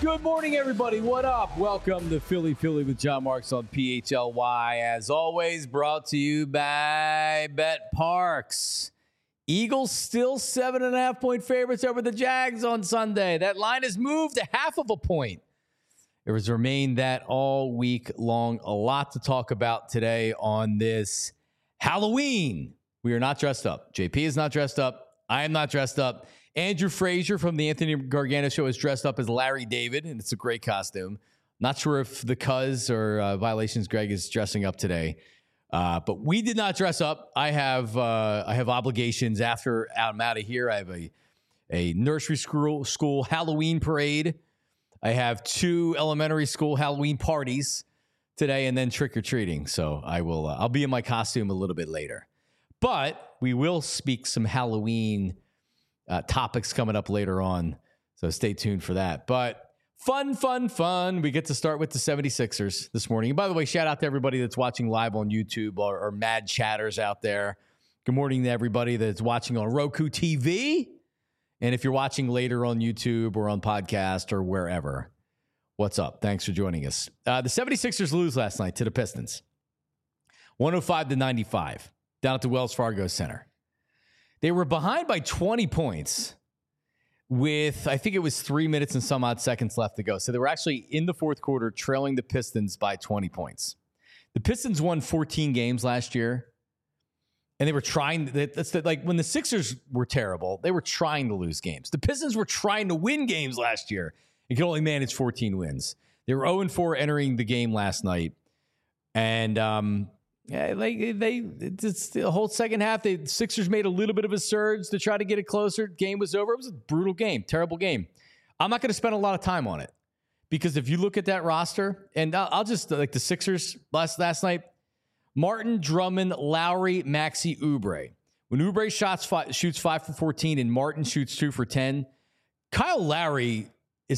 Good morning, everybody. What up? Welcome to Philly with John Marks on PHLY. As always, brought to you by Bet Parks. Eagles still 7.5-point favorites over the Jags on Sunday. That line has moved a half of a point. It has remained that all week long. A lot to talk about today on this Halloween. We are not dressed up. JP is not dressed up. I am not dressed up. Andrew Frazier from the Anthony Gargano Show is dressed up as Larry David, and it's a great costume. Not sure if the Cuz or Violations Greg is dressing up today, but we did not dress up. I have obligations after I'm out of here. I have a nursery school Halloween parade. I have 2 elementary school Halloween parties today, and then trick or treating. So I'll be in my costume a little bit later, but we will speak some Halloween topics coming up later on, so stay tuned for that. But fun. We get to start with the 76ers this morning. And by the way, shout out to everybody that's watching live on YouTube or mad chatters out there. Good morning to everybody that's watching on Roku TV. And if you're watching later on YouTube or on podcast or wherever, what's up? Thanks for joining us. The 76ers lose last night to the Pistons. 105-95 down at the Wells Fargo Center. They were behind by 20 points with, I think it was 3 minutes and some odd seconds left to go. So they were actually in the fourth quarter trailing the Pistons by 20 points. The Pistons won 14 games last year, and they were trying. Like when the Sixers were terrible, they were trying to lose games. The Pistons were trying to win games last year and could only manage 14 wins. They were 0-4 entering the game last night. And, it's the whole second half. The Sixers made a little bit of a surge to try to get it closer. Game was over. It was a brutal game, terrible game. I'm not going to spend a lot of time on it because if you look at that roster, and I'll just like the Sixers last night, Martin, Drummond, Lowry, Maxey, Oubre. When Oubre shoots 5 for 14 and Martin shoots 2 for 10, Kyle Lowry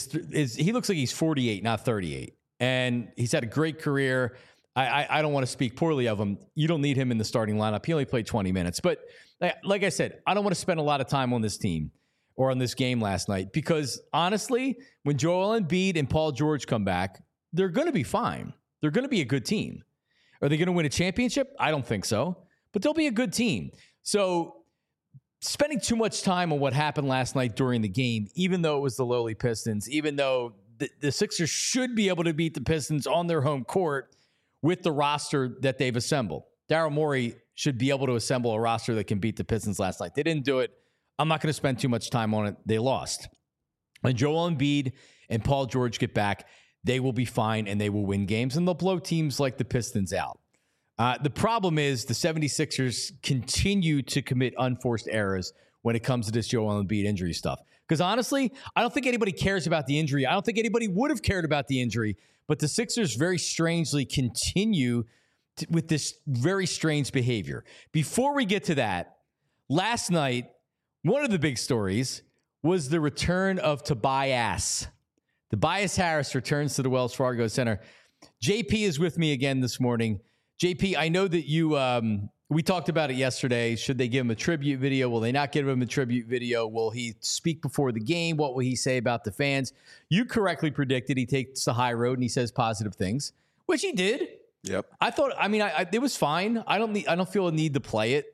he looks like he's 48, not 38, and he's had a great career. I don't want to speak poorly of him. You don't need him in the starting lineup. He only played 20 minutes. But like I said, I don't want to spend a lot of time on this team or on this game last night because, honestly, when Joel Embiid and Paul George come back, they're going to be fine. They're going to be a good team. Are they going to win a championship? I don't think so. But they'll be a good team. So spending too much time on what happened last night during the game, even though it was the lowly Pistons, even though the Sixers should be able to beat the Pistons on their home court, with the roster that they've assembled. Daryl Morey should be able to assemble a roster that can beat the Pistons last night. They didn't do it. I'm not going to spend too much time on it. They lost. When Joel Embiid and Paul George get back, they will be fine and they will win games, and they'll blow teams like the Pistons out. The problem is the 76ers continue to commit unforced errors when it comes to this Joel Embiid injury stuff. Because honestly, I don't think anybody cares about the injury. I don't think anybody would have cared about the injury. But the Sixers very strangely continue with this very strange behavior. Before we get to that, last night, one of the big stories was the return of Tobias. Tobias Harris returns to the Wells Fargo Center. JP is with me again this morning. JP, I know that you we talked about it yesterday. Should they give him a tribute video? Will they not give him a tribute video? Will he speak before the game? What will he say about the fans? You correctly predicted he takes the high road and he says positive things, which he did. Yep. I thought, it was fine. I don't feel a need to play it.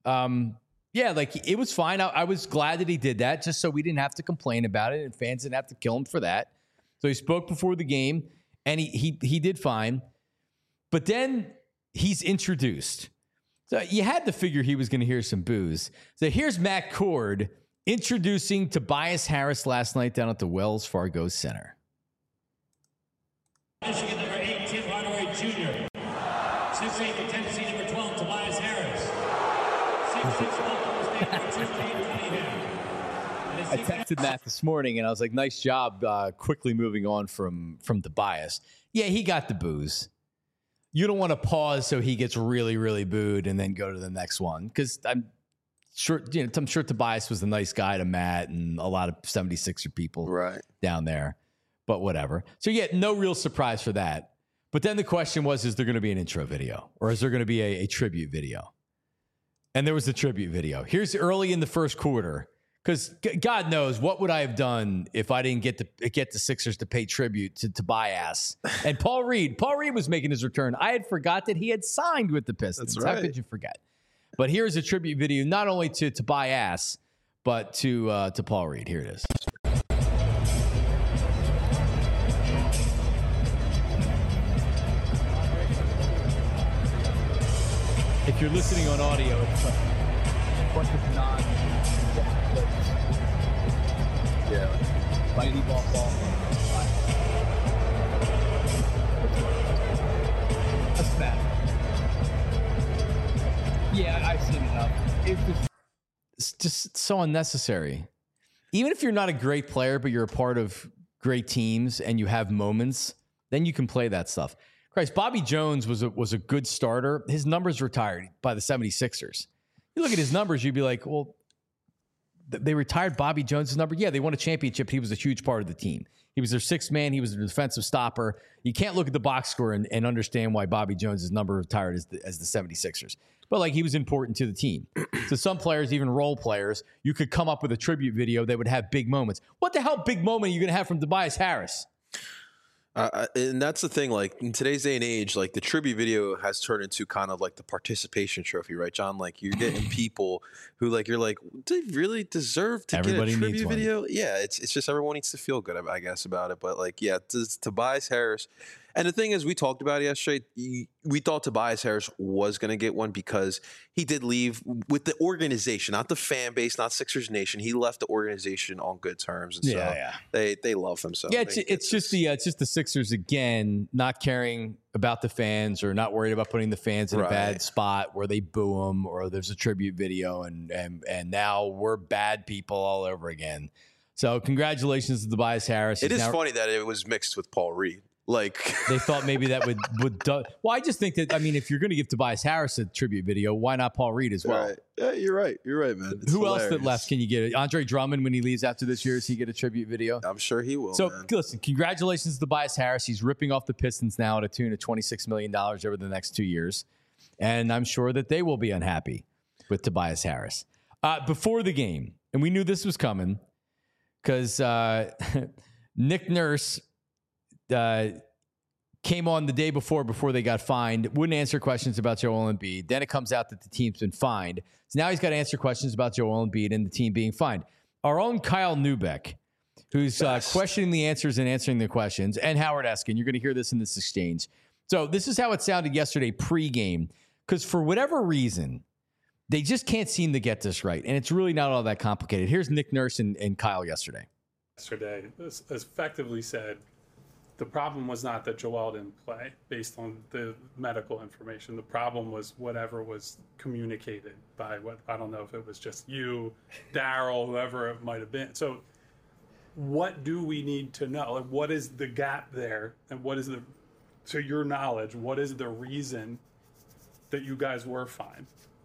It was fine. I was glad that he did that just so we didn't have to complain about it and fans didn't have to kill him for that. So he spoke before the game and he did fine. But then he's introduced. So you had to figure he was going to hear some boos. So here's Matt Cord introducing Tobias Harris last night down at the Wells Fargo Center. Michigan number 8, Tim Hardaway Jr. 6'8", Tennessee number 12, Tobias Harris. 6'6", Oklahoma State number 2, Cade Cunningham. I texted Matt this morning and I was like, nice job quickly moving on from Tobias. Yeah, he got the boos. You don't want to pause so he gets really, really booed and then go to the next one. Because I'm sure Tobias was a nice guy to Matt and a lot of 76er people down there. But whatever. So yeah, no real surprise for that. But then the question was, is there going to be an intro video? Or is there going to be a tribute video? And there was the tribute video. Here's early in the first quarter. Because God knows what would I have done if I didn't get the Sixers to pay tribute to Tobias and Paul Reed. Paul Reed was making his return. I had forgot that he had signed with the Pistons. That's right. How could you forget? But here's a tribute video, not only to Tobias, but to Paul Reed. Here it is. If you're listening on audio, it's a bunch of mighty ball. That's bad. Yeah, I've seen enough. It's just so unnecessary. Even if you're not a great player, but you're a part of great teams and you have moments, then you can play that stuff. Christ, Bobby Jones was a good starter. His numbers retired by the 76ers. You look at his numbers, you'd be like, well, they retired Bobby Jones' number. Yeah, they won a championship. He was a huge part of the team. He was their sixth man. He was their defensive stopper. You can't look at the box score and understand why Bobby Jones' number retired as the 76ers. But like, he was important to the team. So some players, even role players, you could come up with a tribute video that would have big moments. What the hell big moment are you going to have from Tobias Harris? And that's the thing, like in today's day and age, like the tribute video has turned into kind of like the participation trophy, right, John? Like you're getting people who like, you're like, do they really deserve to Everybody get a needs tribute one. video? Yeah, it's just everyone needs to feel good, I guess, about it. But like, yeah, Tobias Harris. And the thing is, we talked about it yesterday. We thought Tobias Harris was going to get one because he did leave with the organization, not the fan base, not Sixers Nation. He left the organization on good terms, and so they love him. So yeah, it's just the Sixers again, not caring about the fans or not worried about putting the fans in a bad spot where they boo them or there's a tribute video, and now we're bad people all over again. So congratulations to Tobias Harris. It is funny that it was mixed with Paul Reed. Like they thought maybe that would well, I just think that, I mean, if you're going to give Tobias Harris a tribute video, why not Paul Reed as well? Right. Yeah, you're right, man. It's Who hilarious. else that left can you get? Andre Drummond, when he leaves after this year, does he get a tribute video? I'm sure he will. So man. Listen, congratulations to Tobias Harris. He's ripping off the Pistons now at a tune of $26 million over the next 2 years, and I'm sure that they will be unhappy with Tobias Harris. Before the game, and we knew this was coming because Nick Nurse came on the day before they got fined, wouldn't answer questions about Joel Embiid. Then it comes out that the team's been fined. So now he's got to answer questions about Joel Embiid and the team being fined. Our own Kyle Neubeck, who's questioning the answers and answering the questions, and Howard Eskin. You're going to hear this in this exchange. So this is how it sounded yesterday pregame, because for whatever reason, they just can't seem to get this right. And it's really not all that complicated. Here's Nick Nurse and Kyle yesterday. Yesterday, this effectively said, the problem was not that Joel didn't play based on the medical information. The problem was whatever was communicated by I don't know if it was just you, Daryl, whoever it might have been. So what do we need to know? Like, what is the gap there? And what is to your knowledge, what is the reason that you guys were fined?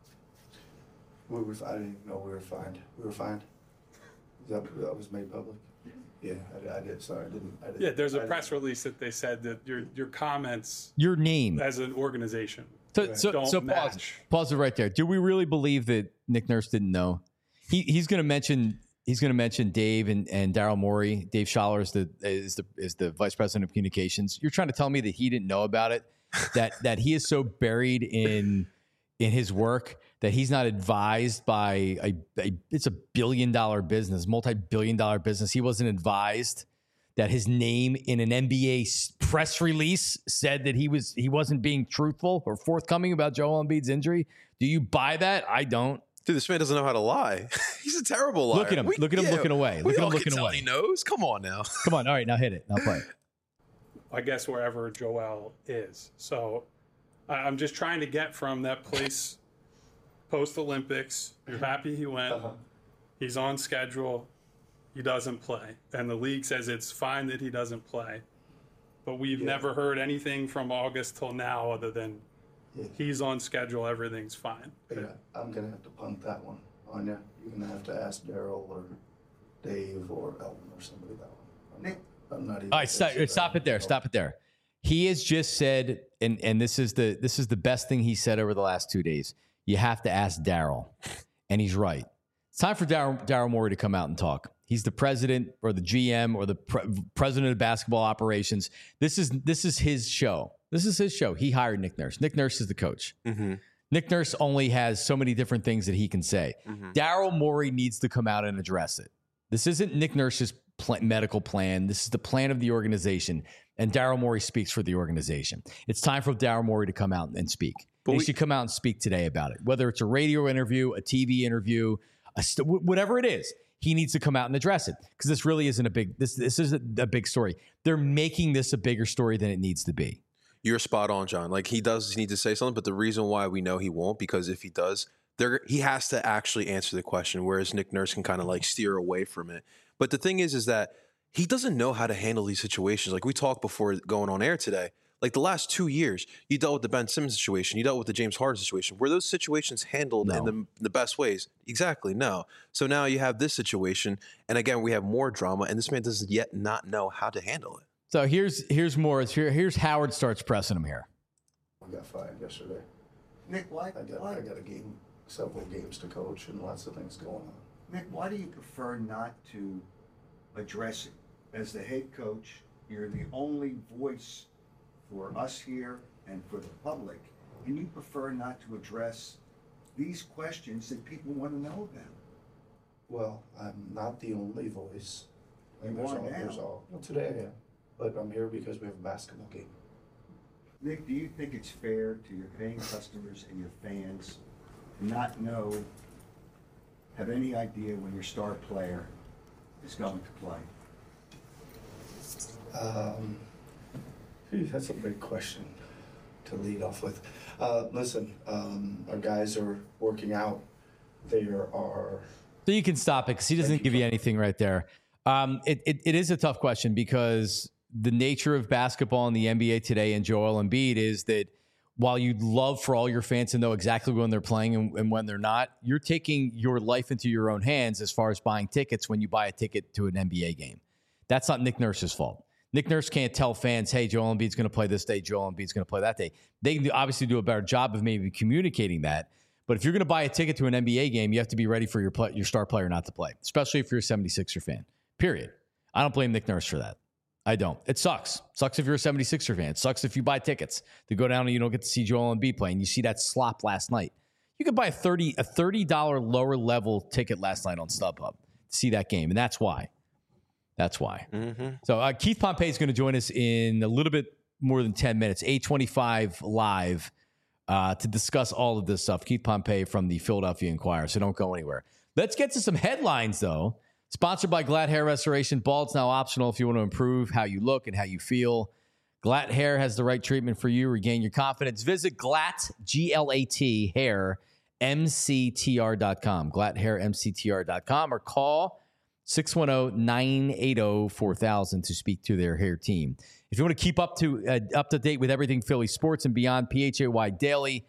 I didn't even know we were fined. We were fined. That was made public. Yeah, I did. Sorry, I didn't. Yeah, there's a press release that they said that your comments, your name as an organization, so pause it right there. Do we really believe that Nick Nurse didn't know? He's going to mention Dave and Daryl Morey. Dave Schaller is the vice president of communications. You're trying to tell me that he didn't know about it, that he is so buried in his work that he's not advised by it's $1 billion business, multi-billion dollar business. He wasn't advised that his name in an NBA press release said that he wasn't being truthful or forthcoming about Joel Embiid's injury. Do you buy that? I don't. Dude, this man doesn't know how to lie. He's a terrible liar. Look at him. Look at him looking away. Look at him looking away. He knows. Come on now. Come on. All right, now hit it. Now play it. I guess wherever Joel is. So I'm just trying to get from that place post-Olympics. You're happy he went. He's on schedule. He doesn't play. And the league says it's fine that he doesn't play. But we've never heard anything from August till now other than he's on schedule, everything's fine. Yeah, I'm going to have to punt that one on you. You're going to have to ask Daryl or Dave or Elton or somebody that one. I'm not even. All right, stop it there. Stop it there. He has just said, and this is the best thing he said over the last 2 days. You have to ask Daryl, and he's right. It's time for Daryl Morey to come out and talk. He's the president or the GM or the president of basketball operations. This is his show. This is his show. He hired Nick Nurse. Nick Nurse is the coach. Mm-hmm. Nick Nurse only has so many different things that he can say. Mm-hmm. Daryl Morey needs to come out and address it. This isn't Nick Nurse's medical plan. This is the plan of the organization, and Daryl Morey speaks for the organization. It's time for Daryl Morey to come out and speak. He should come out and speak today about it, whether it's a radio interview, a TV interview, whatever it is. He needs to come out and address it because this really isn't a big. This isn't a big story. They're making this a bigger story than it needs to be. You're spot on, John. Like, he does need to say something, but the reason why we know he won't, because if he does, he has to actually answer the question, whereas Nick Nurse can kind of like steer away from it. But the thing is that he doesn't know how to handle these situations. Like we talked before going on air today, like the last 2 years, you dealt with the Ben Simmons situation, you dealt with the James Harden situation. Were those situations handled in the best ways? Exactly, no. So now you have this situation, and again, we have more drama, and this man does yet not know how to handle it. So here's more. Here's Howard starts pressing him here. I got fired yesterday. Nick, why? I got a game, several games to coach, and lots of things going on. Nick, why do you prefer not to address it? As the head coach, you're the only voice for us here and for the public, and you prefer not to address these questions that people want to know about. Well, I'm not the only voice. You are now. Well, today I am. But I'm here because we have a basketball game. Nick, do you think it's fair to your paying customers and your fans to not have any idea when your star player is going to play? That's a big question to lead off with. Listen, our guys are working out. There are... So you can stop it because he doesn't give you anything right there. It is a tough question because the nature of basketball in the NBA today and Joel Embiid is that while you'd love for all your fans to know exactly when they're playing and when they're not, you're taking your life into your own hands as far as buying tickets when you buy a ticket to an NBA game. That's not Nick Nurse's fault. Nick Nurse can't tell fans, hey, Joel Embiid's going to play this day, Joel Embiid's going to play that day. They can obviously do a better job of maybe communicating that. But if you're going to buy a ticket to an NBA game, you have to be ready for your star player not to play, especially if you're a 76er fan, period. I don't blame Nick Nurse for that. I don't. It sucks. Sucks if you're a 76er fan. It sucks if you buy tickets to go down and you don't get to see Joel Embiid play and you see that slop last night. You could buy a $30 lower level ticket last night on StubHub to see that game, and that's why. That's why. Mm-hmm. So Keith Pompey is going to join us in a little bit more than 10 minutes, 8:25 live, to discuss all of this stuff. Keith Pompey from the Philadelphia Inquirer, so don't go anywhere. Let's get to some headlines, though. Sponsored by Glatt Hair Restoration. Bald's now optional if you want to improve how you look and how you feel. Glatt Hair has the right treatment for you. Regain your confidence. Visit Glatt, G-L-A-T, hair, MCTR.com. GlattHairMCTR.com or call 610-980-4000 to speak to their hair team. If you want to keep up to date with everything Philly sports and beyond, PHLY Daily,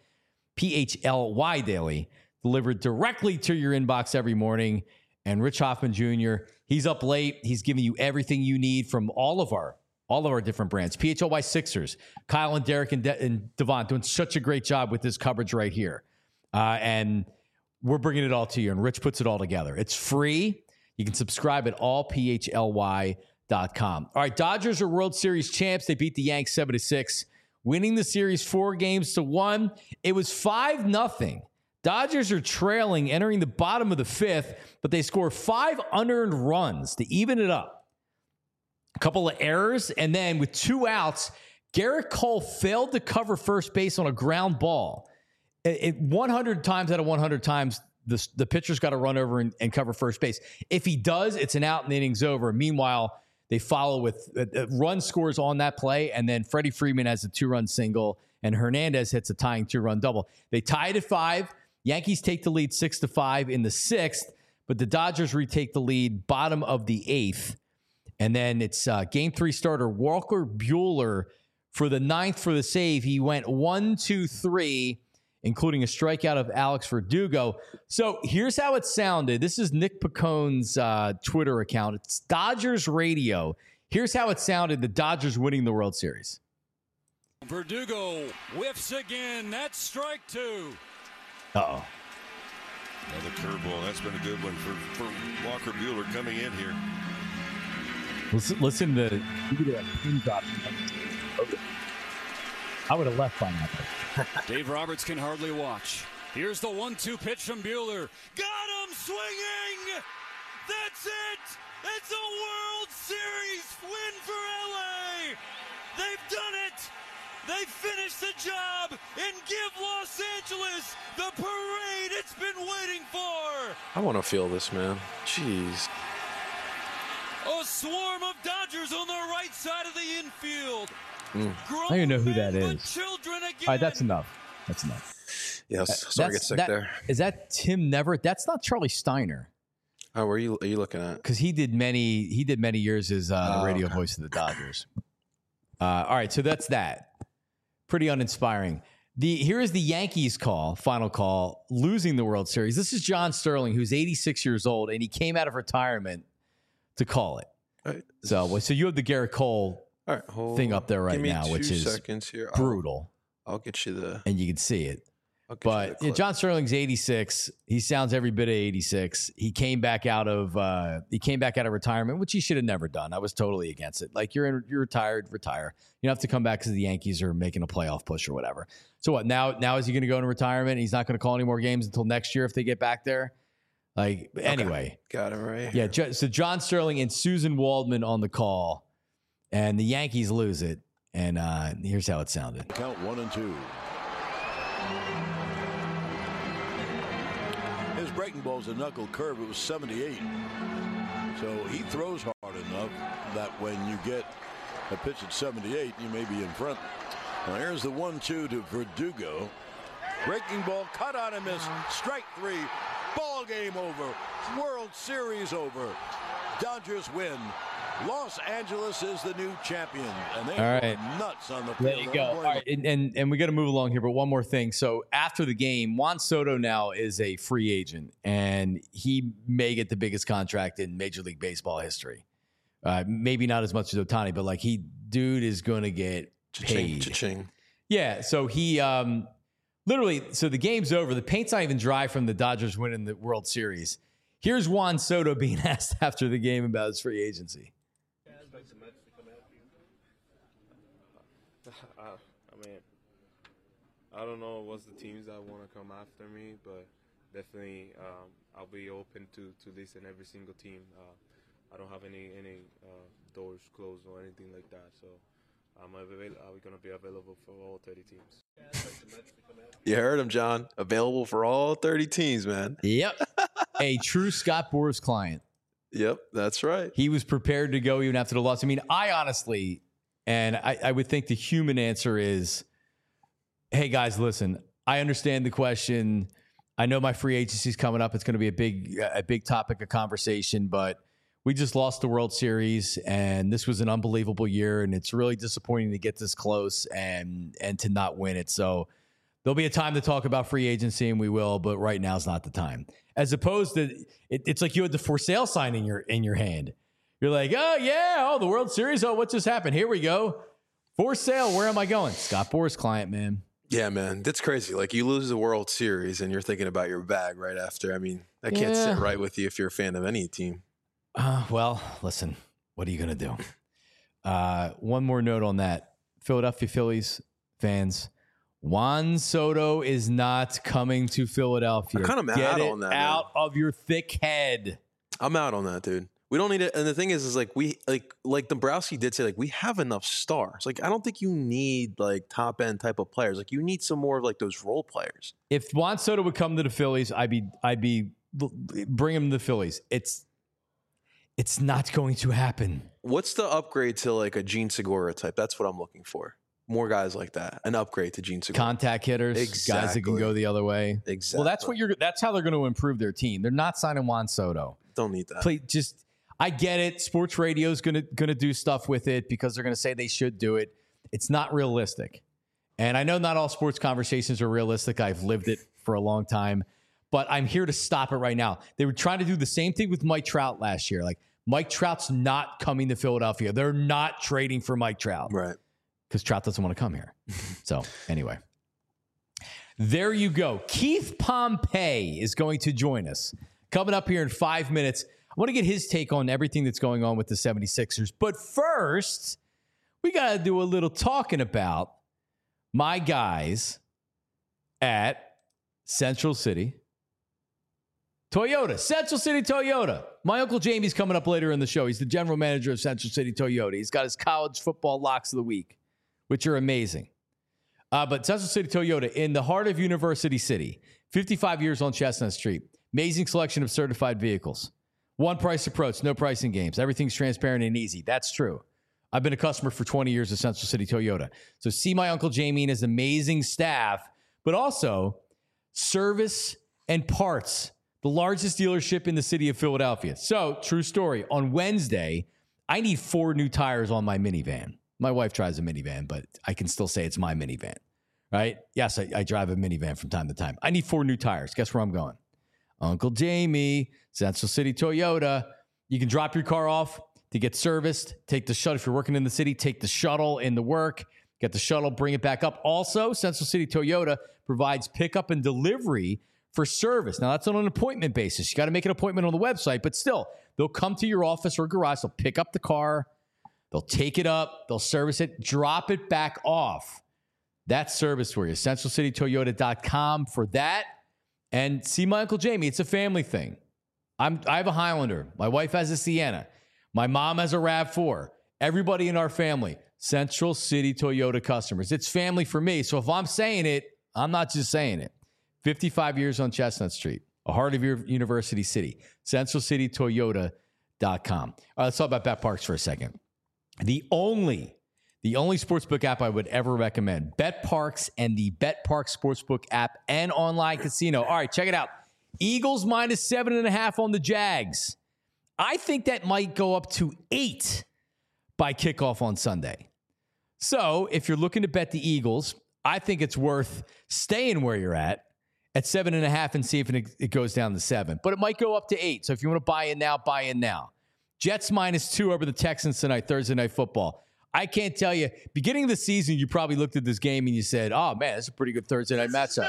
delivered directly to your inbox every morning. And Rich Hoffman Jr., he's up late. He's giving you everything you need from all of our different brands. PHLY Sixers, Kyle and Derek and Devon doing such a great job with this coverage right here. And we're bringing it all to you, and Rich puts it all together. It's free. You can subscribe at allphly.com. All right, Dodgers are World Series champs. They beat the Yanks 7-6, winning the series 4-1. It was 5-0. Dodgers are trailing, entering the bottom of the fifth, but they score 5 unearned runs to even it up. A couple of errors, and then with 2 outs, Garrett Cole failed to cover first base on a ground ball. 100 times out of 100 times, the pitcher's got to run over and cover first base. If he does, it's an out and the inning's over. Meanwhile, they follow with run scores on that play, and then Freddie Freeman has a 2-run single, and Hernandez hits a tying 2-run double. They tied at 5. Yankees take the lead 6-5 in the 6th, but the Dodgers retake the lead bottom of the 8th. And then it's Game 3 starter Walker Buehler for the 9th for the save. He went 1-2-3, including a strikeout of Alex Verdugo. So here's how it sounded. This is Nick Picone's Twitter account. It's Dodgers Radio. Here's how it sounded, the Dodgers winning the World Series. Verdugo whiffs again. That's strike 2. Uh-oh. Another curveball. That's been a good one for Walker Buehler coming in here. Listen to that pin drop. I would have left by now. Dave Roberts can hardly watch. Here's the 1-2 pitch from Buehler. Got him swinging! That's it! It's a World Series win for LA! They've done it! They finished the job and give Los Angeles the parade it's been waiting for! I want to feel this, man. Jeez. A swarm of Dodgers on the right side of the infield. I don't even know who that is. All right, that's enough. That's enough. Yes, sorry to get sick there. Is that Tim Neverett? That's not Charlie Steiner. Oh, where are you looking at? Because he did many years as radio voice of the Dodgers. All right, so that's that. Pretty uninspiring. Here is the Yankees final call, losing the World Series. This is John Sterling, who's 86 years old, and he came out of retirement to call it. Right. So you have the Garrett Cole thing up there right now, which is seconds here. brutal. I'll get you and you can see it. But John Sterling's 86. He sounds every bit of 86. He came back out of retirement, which he should have never done. I was totally against it. Like you're retired, retire. You don't have to come back because the Yankees are making a playoff push or whatever. So what? Now is he going to go into retirement? And he's not going to call any more games until next year if they get back there. Like anyway, got it right. Yeah. So John Sterling and Susan Waldman on the call, and the Yankees lose it. And here's how it sounded. Count 1-2. His breaking ball's a knuckle curve. It was 78. So he throws hard enough that when you get a pitch at 78, you may be in front. Now here's the 1-2 to Verdugo. Breaking ball, cut on a miss. Strike 3. Ball game over. World Series over. Dodgers win. Los Angeles is the new champion, and they are nuts on the field. There you go. All right, and we got to move along here, but one more thing. So after the game, Juan Soto now is a free agent, and he may get the biggest contract in Major League Baseball history. Maybe not as much as Ohtani, but dude is going to get paid. Cha-ching. Yeah, so he literally, so the game's over. The paint's not even dry from the Dodgers winning the World Series. Here's Juan Soto being asked after the game about his free agency. I don't know what's the teams that want to come after me, but definitely I'll be open to listen every single team. I don't have any doors closed or anything like that, so I'm going to be available for all 30 teams. You heard him, John. Available for all 30 teams, man. Yep. A true Scott Boras client. Yep, that's right. He was prepared to go even after the loss. I mean, I honestly, and I would think the human answer is, hey, guys, listen, I understand the question. I know my free agency's coming up. It's going to be a big topic of conversation, but we just lost the World Series, and this was an unbelievable year, and it's really disappointing to get this close and to not win it. So there'll be a time to talk about free agency, and we will, but right now is not the time. As opposed to, it's like you had the for sale sign in your hand. You're like, the World Series. Oh, what just happened? Here we go. For sale. Where am I going? Scott Boras client, man. Yeah, man. That's crazy. Like, you lose the World Series and you're thinking about your bag right after. I mean, that can't sit right with you if you're a fan of any team. Well, listen, what are you going to do? One more note on that. Philadelphia Phillies fans, Juan Soto is not coming to Philadelphia. I'm kind of mad on that. Get out of your thick head. I'm out on that, dude. We don't need it. And the thing is we like Dombrowski did say, we have enough stars. Like, I don't think you need top end type of players. Like, you need some more of those role players. If Juan Soto would come to the Phillies, I'd be bring him to the Phillies. It's not going to happen. What's the upgrade to a Gene Segura type? That's what I'm looking for. More guys like that. An upgrade to Gene Segura. Contact hitters, guys that can go the other way. Exactly. Well, that's how they're going to improve their team. They're not signing Juan Soto. Don't need that. I get it. Sports radio is going to do stuff with it because they're going to say they should do it. It's not realistic. And I know not all sports conversations are realistic. I've lived it for a long time. But I'm here to stop it right now. They were trying to do the same thing with Mike Trout last year. Mike Trout's not coming to Philadelphia. They're not trading for Mike Trout. Right. Because Trout doesn't want to come here. So, anyway. There you go. Keith Pompey is going to join us. Coming up here in 5 minutes. I want to get his take on everything that's going on with the 76ers. But first, we got to do a little talking about my guys at Central City Toyota. Central City Toyota. My Uncle Jamie's coming up later in the show. He's the general manager of Central City Toyota. He's got his college football locks of the week, which are amazing. But Central City Toyota in the heart of University City, 55 years on Chestnut Street. Amazing selection of certified vehicles. One price approach, no pricing games. Everything's transparent and easy. That's true. I've been a customer for 20 years of Central City Toyota. So see my Uncle Jamie and his amazing staff, but also service and parts. The largest dealership in the city of Philadelphia. So, true story. On Wednesday, I need 4 new tires on my minivan. My wife drives a minivan, but I can still say it's my minivan, right? Yes, I drive a minivan from time to time. I need 4 new tires. Guess where I'm going? Uncle Jamie, Central City Toyota. You can drop your car off to get serviced. Take the shuttle. If you're working in the city, take the shuttle into work. Get the shuttle, bring it back up. Also, Central City Toyota provides pickup and delivery for service. Now, that's on an appointment basis. You got to make an appointment on the website, but still, they'll come to your office or garage. They'll pick up the car. They'll take it up. They'll service it, drop it back off. That's service for you. CentralCityToyota.com for that. And see my Uncle Jamie. It's a family thing. I have a Highlander. My wife has a Sienna. My mom has a RAV4. Everybody in our family, Central City Toyota customers. It's family for me. So if I'm saying it, I'm not just saying it. 55 years on Chestnut Street, a heart of your University City, CentralCityToyota.com. All right, let's talk about BetParks for a second. The only sportsbook app I would ever recommend, BetParks and the BetParks Sportsbook app and online casino. All right, check it out. Eagles minus 7.5 on the Jags. I think that might go up to 8 by kickoff on Sunday. So if you're looking to bet the Eagles, I think it's worth staying where you're at 7.5 and see if it goes down to 7. But it might go up to 8. So if you want to buy in now, buy in now. Jets minus 2 over the Texans tonight, Thursday Night Football. I can't tell you. Beginning of the season, you probably looked at this game and you said, oh, man, that's a pretty good Thursday night matchup.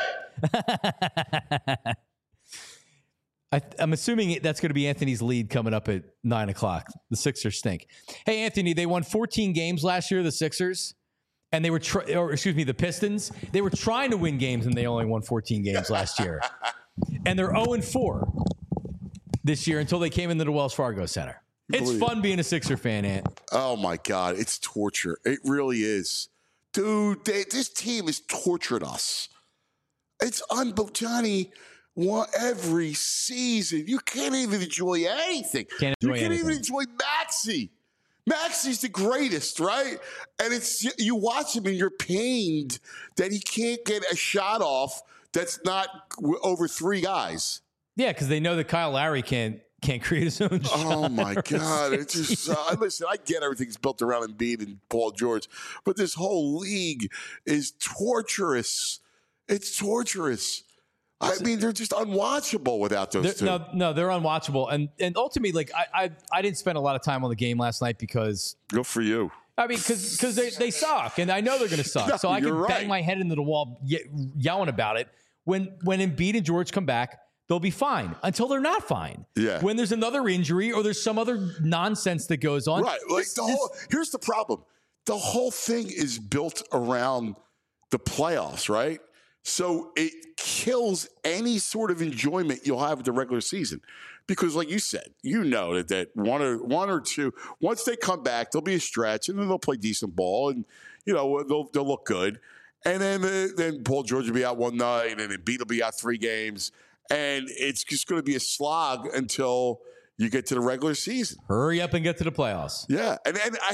I'm assuming that's going to be Anthony's lead coming up at 9 o'clock. The Sixers stink. Hey, Anthony, they won 14 games last year, the Sixers. And they were, the Pistons. They were trying to win games, and they only won 14 games last year. And they're 0-4 this year until they came into the Wells Fargo Center. It's fun being a Sixer fan, Ant. Oh, my God. It's torture. It really is. Dude, this team has tortured us. It's unbelievable. Johnny, every season, you can't even enjoy anything. You can't even enjoy Maxey. Maxey's the greatest, right? And you watch him and you're pained that he can't get a shot off that's not over 3 guys. Yeah, because they know that Kyle Lowry can't create his own shot. Oh, my God. It's just, listen, I get everything's built around Embiid and Paul George, but this whole league is torturous. It's torturous. I mean, they're just unwatchable without those two. No, they're unwatchable. And ultimately, like, I didn't spend a lot of time on the game last night because... Good for you. I mean, because they suck, and I know they're going to suck. So I can bang my head into the wall yelling about it. When Embiid and George come back, they'll be fine until they're not fine. Yeah. When there's another injury or there's some other nonsense that goes on. Right. Like here's the problem. The whole thing is built around the playoffs, right? So it kills any sort of enjoyment you'll have at the regular season. Because like you said, you know that one or two, once they come back, there'll be a stretch and then they'll play decent ball and, you know, they'll look good. And then Paul George will be out one night and Embiid will be out 3 games. And it's just going to be a slog until you get to the regular season. Hurry up and get to the playoffs. Yeah. And I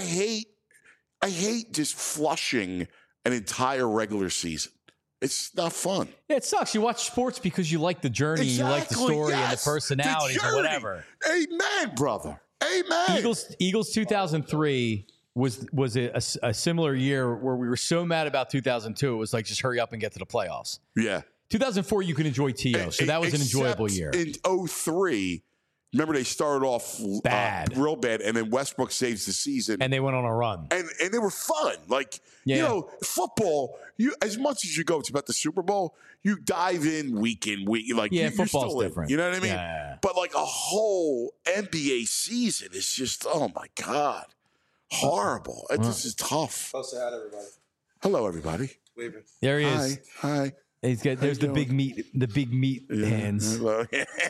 hate just flushing an entire regular season. It's not fun. Yeah, it sucks. You watch sports because you like the journey, you like the story and the personalities or whatever. Amen, brother. Amen. Eagles 2003 was a similar year where we were so mad about 2002. It was like, just hurry up and get to the playoffs. Yeah. 2004, you can enjoy T.O., so that was an enjoyable year. In 2003, Remember, they started off bad, real bad, and then Westbrook saves the season, and they went on a run, and they were fun. Like you know, football. You as much as you go, it's about the Super Bowl. You dive in week. Like football's different. You know what I mean? Yeah. But like a whole NBA season is just my god, horrible. This is tough. Oh, say hi to everybody. Hello, everybody. Waving. There he is. Hi. There's the big meat hands. Hello.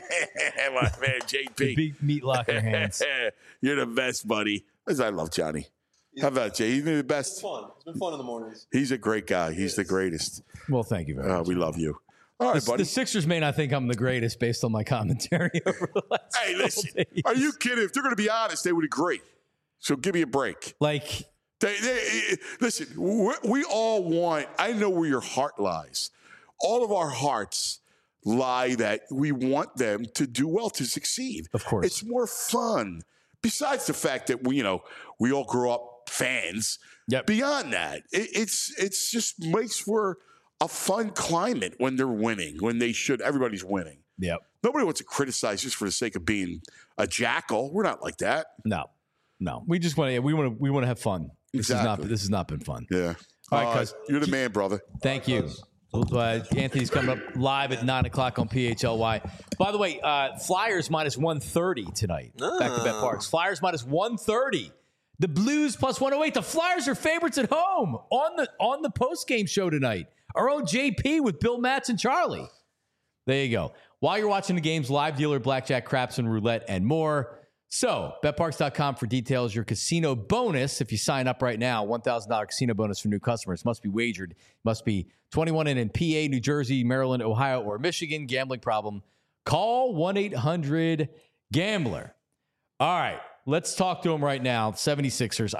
My man, JP. The big meat locker hands. You're the best, buddy. I love Johnny. How about Jay? He's the best. It's fun. It's been fun in the mornings. He's a great guy. He's the greatest. Well, thank you very much. We love you. All right, buddy. The Sixers may not think I'm the greatest based on my commentary over the last Hey, listen. days. Are you kidding? If they're going to be honest, they would agree. So give me a break. Like, listen, we all want, I know where your heart lies. All of our hearts lie that we want them to do well, to succeed. Of course. It's more fun. Besides the fact that we all grew up fans. Yep. Beyond that, it's just makes for a fun climate when they're winning, when everybody's winning. Yep. Nobody wants to criticize just for the sake of being a jackal. We're not like that. No. We just want to have fun. Exactly. This has not been fun. Yeah. All right, cuz. You're the man, brother. Thank you. Anthony's coming up live at 9 o'clock on PHLY. By the way, Flyers minus 130 tonight. Back to BetParx. Flyers minus 130. The Blues plus 108. The Flyers are favorites at home on the post-game show tonight. Our own JP with Bill Matz and Charlie. There you go. While you're watching the games, live dealer, blackjack, craps, and roulette, and more. So, betparx.com for details. Your casino bonus, if you sign up right now, $1,000 casino bonus for new customers. Must be wagered. Must be 21 and in PA, New Jersey, Maryland, Ohio, or Michigan. Gambling problem? Call 1-800-GAMBLER. All right, let's talk to them right now. 76ers.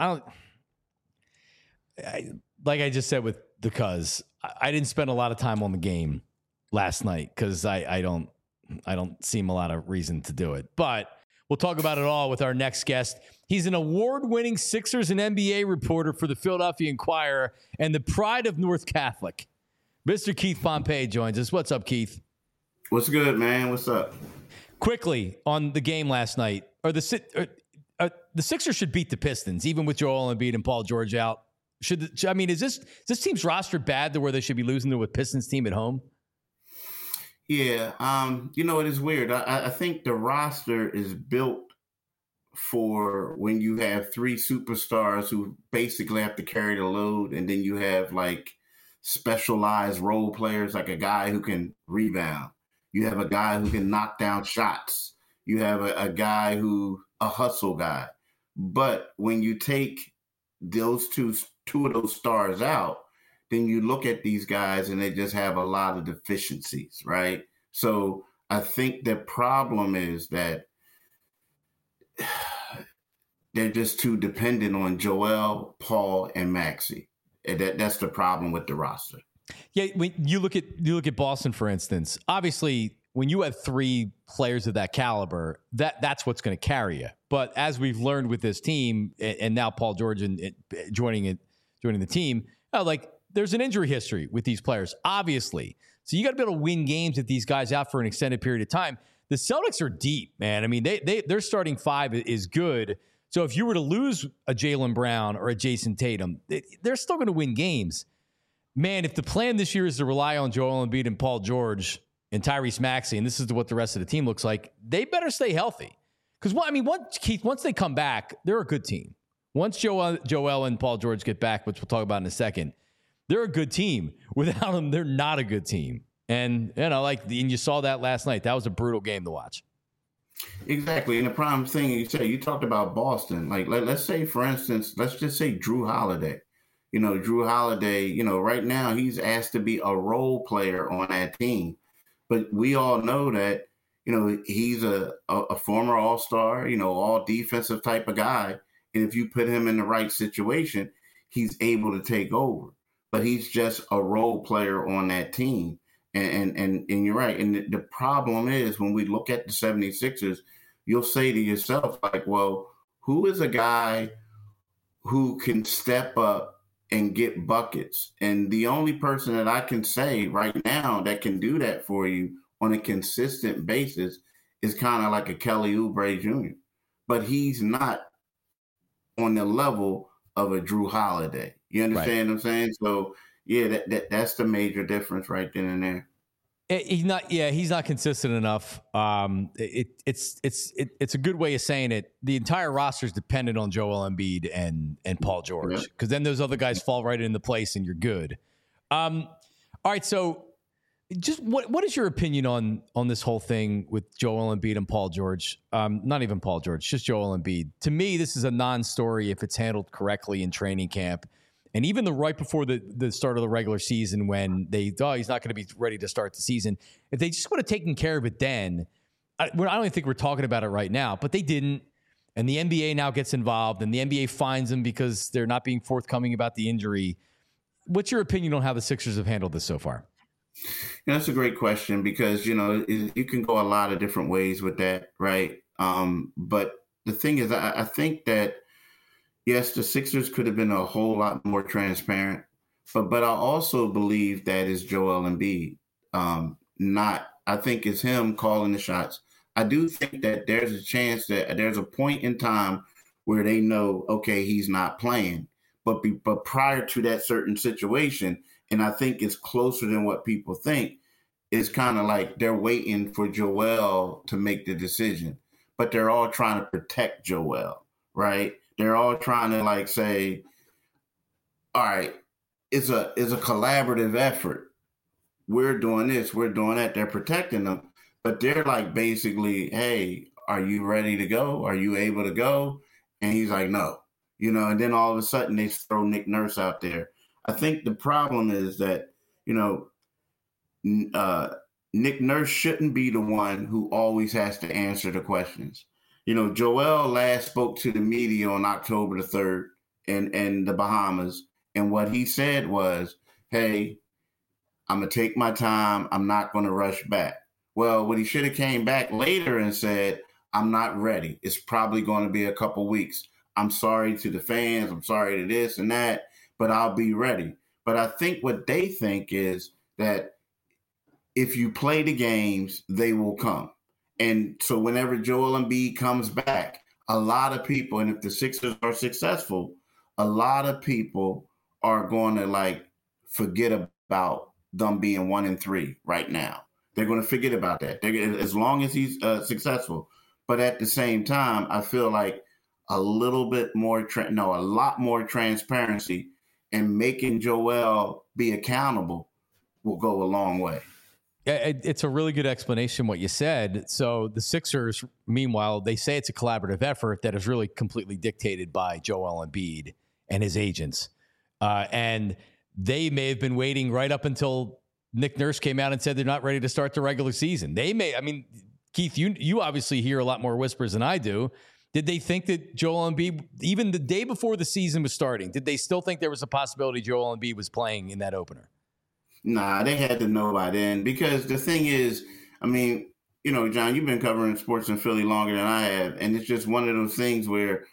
Like I just said with the Cuz, I didn't spend a lot of time on the game last night because I don't see a lot of reason to do it. But we'll talk about it all with our next guest. He's an award-winning Sixers and NBA reporter for the Philadelphia Inquirer and the pride of North Catholic. Mr. Keith Pompey joins us. What's up, Keith? What's good, man? What's up? Quickly, on the game last night, the Sixers should beat the Pistons, even with Joel Embiid and Paul George out. Is this team's roster bad to where they should be losing to a Pistons team at home? Yeah, it is weird. I think the roster is built for when you have three superstars who basically have to carry the load, and then you have like specialized role players, like a guy who can rebound. You have a guy who can knock down shots. You have a guy a hustle guy. But when you take those two of those stars out, then you look at these guys and they just have a lot of deficiencies, right? So I think the problem is that they're just too dependent on Joel, Paul, and Maxey. That's the problem with the roster. Yeah, when you look at Boston, for instance, obviously when you have three players of that caliber, that's what's going to carry you. But as we've learned with this team, and now Paul George joining the team, there's an injury history with these players, obviously. So you got to be able to win games with these guys out for an extended period of time. The Celtics are deep, man. I mean, their starting five is good. So if you were to lose a Jaylen Brown or a Jason Tatum, they're still going to win games. Man, if the plan this year is to rely on Joel Embiid and Paul George and Tyrese Maxey, and this is what the rest of the team looks like, they better stay healthy. Because, once they come back, they're a good team. Once Joel and Paul George get back, which we'll talk about in a second, they're a good team. Without them, they're not a good team. And, and you saw that last night. That was a brutal game to watch. Exactly. And the prime thing you talked about Boston. Let's say, for instance, let's just say Drew Holiday. Drew Holiday, right now he's asked to be a role player on that team. But we all know that, he's a former all-star, all defensive type of guy. And if you put him in the right situation, he's able to take over. But he's just a role player on that team. And you're right. And the problem is when we look at the 76ers, you'll say to yourself, well, who is a guy who can step up and get buckets? And the only person that I can say right now that can do that for you on a consistent basis is kind of like a Kelly Oubre Jr., but he's not on the level of a Drew Holiday. You understand what I'm saying? So yeah, that's the major difference right then and there. He's not consistent enough. It's a good way of saying it. The entire roster is dependent on Joel Embiid and Paul George, because then those other guys fall right into place and you're good. All right, so just what is your opinion on this whole thing with Joel Embiid and Paul George? Not even Paul George, just Joel Embiid. To me, this is a non-story if it's handled correctly in training camp. And even right before the start of the regular season, when he's not going to be ready to start the season, if they just would have taken care of it then, I don't even think we're talking about it right now, but they didn't. And the NBA now gets involved, and the NBA fines them because they're not being forthcoming about the injury. What's your opinion on how the Sixers have handled this so far? That's a great question, because, you can go a lot of different ways with that, right? But the thing is, I think that, yes, the Sixers could have been a whole lot more transparent, but I also believe that is Joel Embiid. I think it's him calling the shots. I do think that there's a chance that there's a point in time where they know, okay, he's not playing. But prior to that certain situation, and I think it's closer than what people think, it's kind of like they're waiting for Joel to make the decision. But they're all trying to protect Joel, right? They're all trying to say, all right, it's a collaborative effort. We're doing this, we're doing that. They're protecting them, but they're basically, hey, are you ready to go? Are you able to go? And he's like, no, and then all of a sudden they throw Nick Nurse out there. I think the problem is that, Nick Nurse shouldn't be the one who always has to answer the questions. Joel last spoke to the media on October the 3rd in the Bahamas. And what he said was, hey, I'm going to take my time. I'm not going to rush back. Well, what he should have came back later and said, I'm not ready. It's probably going to be a couple weeks. I'm sorry to the fans. I'm sorry to this and that, but I'll be ready. But I think what they think is that if you play the games, they will come. And so whenever Joel Embiid comes back, a lot of people, and if the Sixers are successful, a lot of people are going to forget about them being 1-3 right now. They're going to forget about that. As long as he's successful. But at the same time, I feel like a lot more transparency and making Joel be accountable will go a long way. It's a really good explanation what you said. So the Sixers, meanwhile, they say it's a collaborative effort that is really completely dictated by Joel Embiid and his agents. And they may have been waiting right up until Nick Nurse came out and said they're not ready to start the regular season. Keith, you obviously hear a lot more whispers than I do. Did they think that Joel Embiid, even the day before the season was starting, did they still think there was a possibility Joel Embiid was playing in that opener? Nah, they had to know by then, because the thing is, John, you've been covering sports in Philly longer than I have, and it's just one of those things where,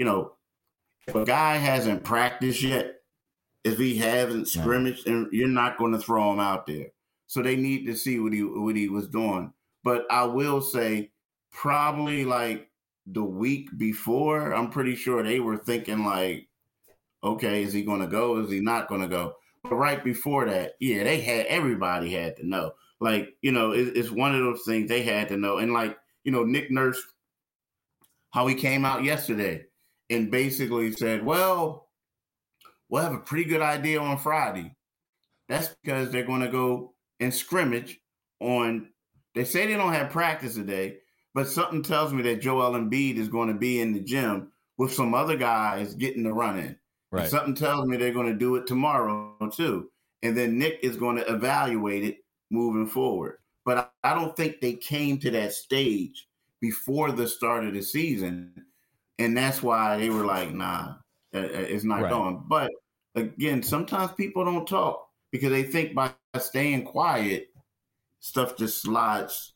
if a guy hasn't practiced yet, if he hasn't scrimmaged, and you're not going to throw him out there. So they need to see what he was doing. But I will say, probably the week before, I'm pretty sure they were thinking okay, is he going to go? Is he not going to go? But right before that, yeah, everybody had to know. It's one of those things they had to know. And Nick Nurse, how he came out yesterday and basically said, well, we'll have a pretty good idea on Friday. That's because they're going to go and scrimmage they say they don't have practice today, but something tells me that Joel Embiid is going to be in the gym with some other guys getting the run in. Right. Something tells me they're going to do it tomorrow too. And then Nick is going to evaluate it moving forward. But I don't think they came to that stage before the start of the season. And that's why they were like, nah, it's not going. But again, sometimes people don't talk because they think by staying quiet, stuff just slides,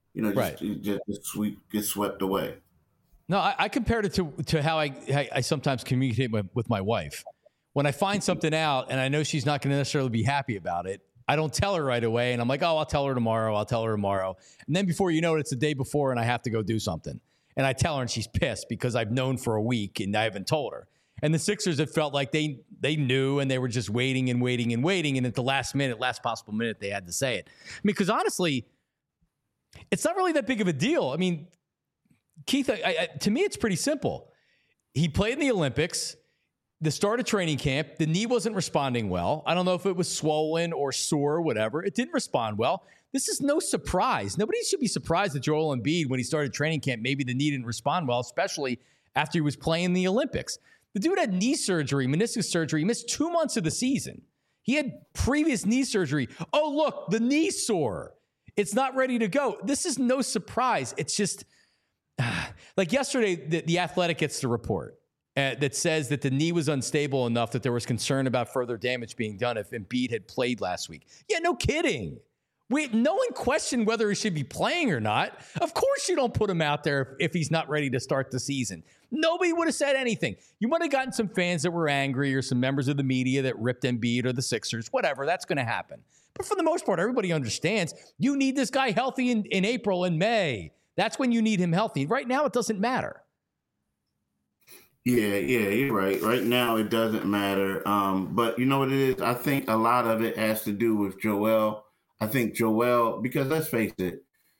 just gets swept away. No, I compared it to how I sometimes communicate with my wife. When I find something out and I know she's not going to necessarily be happy about it, I don't tell her right away. And I'm like, oh, I'll tell her tomorrow. And then before you know it, it's the day before and I have to go do something. And I tell her and she's pissed because I've known for a week and I haven't told her. And the Sixers, it felt like they knew and they were just waiting. And at the last possible minute, they had to say it. I mean, because honestly, it's not really that big of a deal. I mean, Keith, to me, it's pretty simple. He played in the Olympics, the start of training camp. The knee wasn't responding well. I don't know if it was swollen or sore or whatever. It didn't respond well. This is no surprise. Nobody should be surprised that Joel Embiid, when he started training camp, maybe the knee didn't respond well, especially after he was playing the Olympics. The dude had knee surgery, meniscus surgery. He missed 2 months of the season. He had previous knee surgery. Oh, look, the knee's sore. It's not ready to go. This is no surprise. It's just like yesterday, the Athletic gets the report that says that the knee was unstable enough that there was concern about further damage being done if Embiid had played last week. Yeah, no kidding. No one questioned whether he should be playing or not. Of course you don't put him out there if he's not ready to start the season. Nobody would have said anything. You might have gotten some fans that were angry or some members of the media that ripped Embiid or the Sixers, whatever. That's going to happen. But for the most part, everybody understands you need this guy healthy in April and May. That's when you need him healthy. Right now, it doesn't matter. Yeah, you're right. Right now, it doesn't matter. But you know what it is? I think a lot of it has to do with Joel. I think Joel, because let's face it,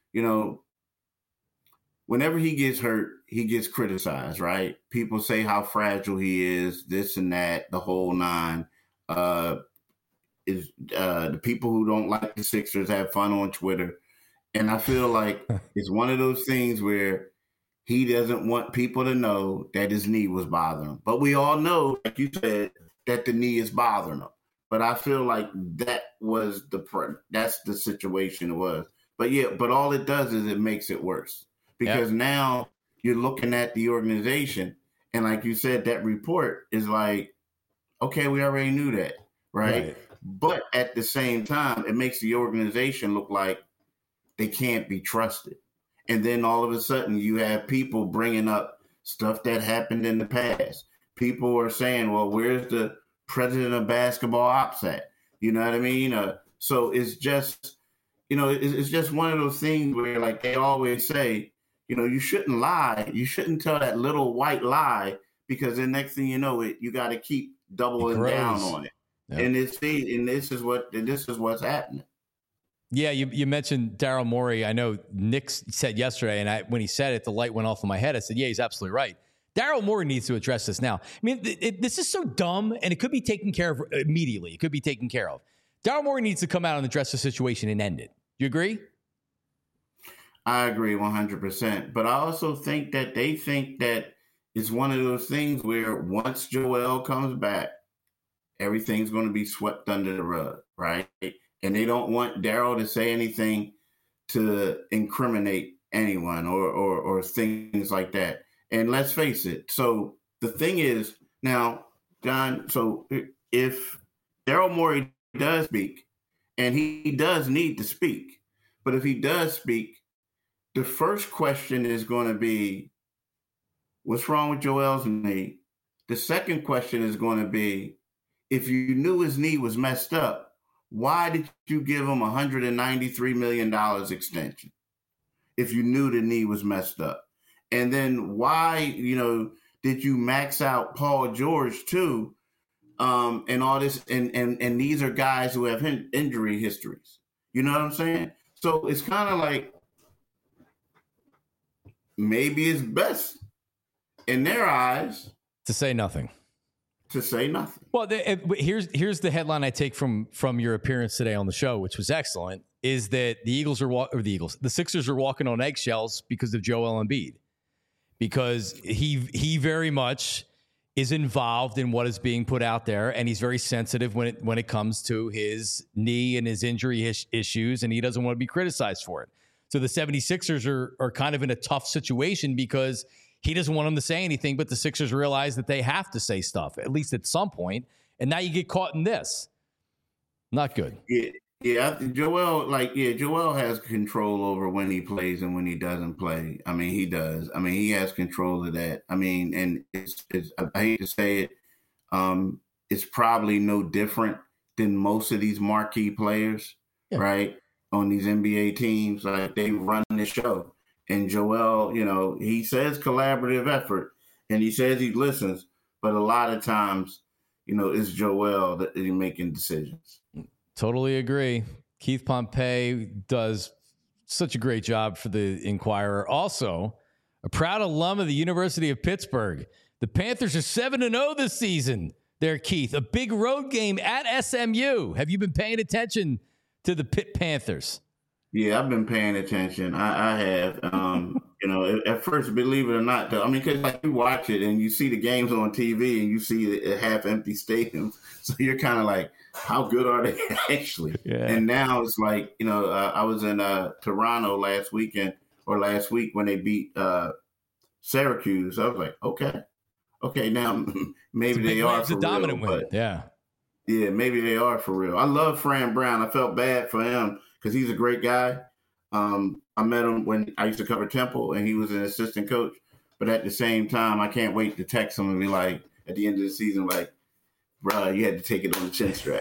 whenever he gets hurt, he gets criticized, right? People say how fragile he is, this and that, the whole nine. The people who don't like the Sixers have fun on Twitter. And I feel like it's one of those things where he doesn't want people to know that his knee was bothering him. But we all know, like you said, that the knee is bothering him. But I feel like that's the situation it was. But all it does is it makes it worse. Because now you're looking at the organization, and like you said, that report is like, okay, we already knew that, right? But at the same time, it makes the organization look like they can't be trusted. And then all of a sudden you have people bringing up stuff that happened in the past. People are saying, well, where's the president of basketball ops at? You know what I mean? So it's just, it's just one of those things where, like they always say, you shouldn't lie. You shouldn't tell that little white lie, because the next thing you know, you got to keep doubling down on it. Yep. And this is what's happening. Yeah, you mentioned Daryl Morey. I know Nick said yesterday, and when he said it, the light went off in my head. I said, yeah, he's absolutely right. Daryl Morey needs to address this now. I mean, this is so dumb, and it could be taken care of immediately. It could be taken care of. Daryl Morey needs to come out and address the situation and end it. You agree? I agree 100%. But I also think that they think that it's one of those things where once Joel comes back, everything's going to be swept under the rug, right? And they don't want Daryl to say anything to incriminate anyone or things like that. And let's face it. So the thing is now, John, so if Daryl Morey does speak, and he does need to speak, but if he does speak, the first question is going to be, what's wrong with Joel's knee? The second question is going to be, if you knew his knee was messed up, why did you give him $193 million extension if you knew the knee was messed up? And then why, did you max out Paul George too? And all this, and these are guys who have injury histories. You know what I'm saying? So it's kind of like, maybe it's best in their eyes to say nothing. Well, here's the headline I take from your appearance today on the show, which was excellent, is that the Sixers are walking on eggshells because of Joel Embiid, because he very much is involved in what is being put out there, and he's very sensitive when it comes to his knee and his injury issues, and he doesn't want to be criticized for it. So the 76ers are kind of in a tough situation because he doesn't want them to say anything, but the Sixers realize that they have to say stuff, at least at some point. And now you get caught in this. Not good. Yeah. Joel has control over when he plays and when he doesn't play. I mean, he does. I mean, he has control of that. I mean, and it's I hate to say it, it's probably no different than most of these marquee players, right? On these NBA teams, like they run the show. And Joel, you know, he says collaborative effort and he says he listens, but a lot of times, you know, it's Joel that is making decisions. Totally agree. Keith Pompey does such a great job for the Inquirer. Also, a proud alum of the University of Pittsburgh. The Panthers are 7-0 this season. There, Keith, a big road game at SMU. Have you been paying attention to the Pitt Panthers? Yeah, I've been paying attention. I have. You know, at first, believe it or not, though, I mean, because like you watch it and you see the games on TV and you see a half-empty stadium, so you're kind of like, how good are they actually? Yeah. And now it's like, you know, I was in Toronto last week when they beat Syracuse. I was like, okay, now maybe they are for real. It's a dominant win. Yeah, maybe they are for real. I love Fran Brown. I felt bad for him because he's a great guy. I met him when I used to cover Temple, and he was an assistant coach. But at the same time, I can't wait to text him and be like, at the end of the season, like, bro, you had to take it on the chin strap.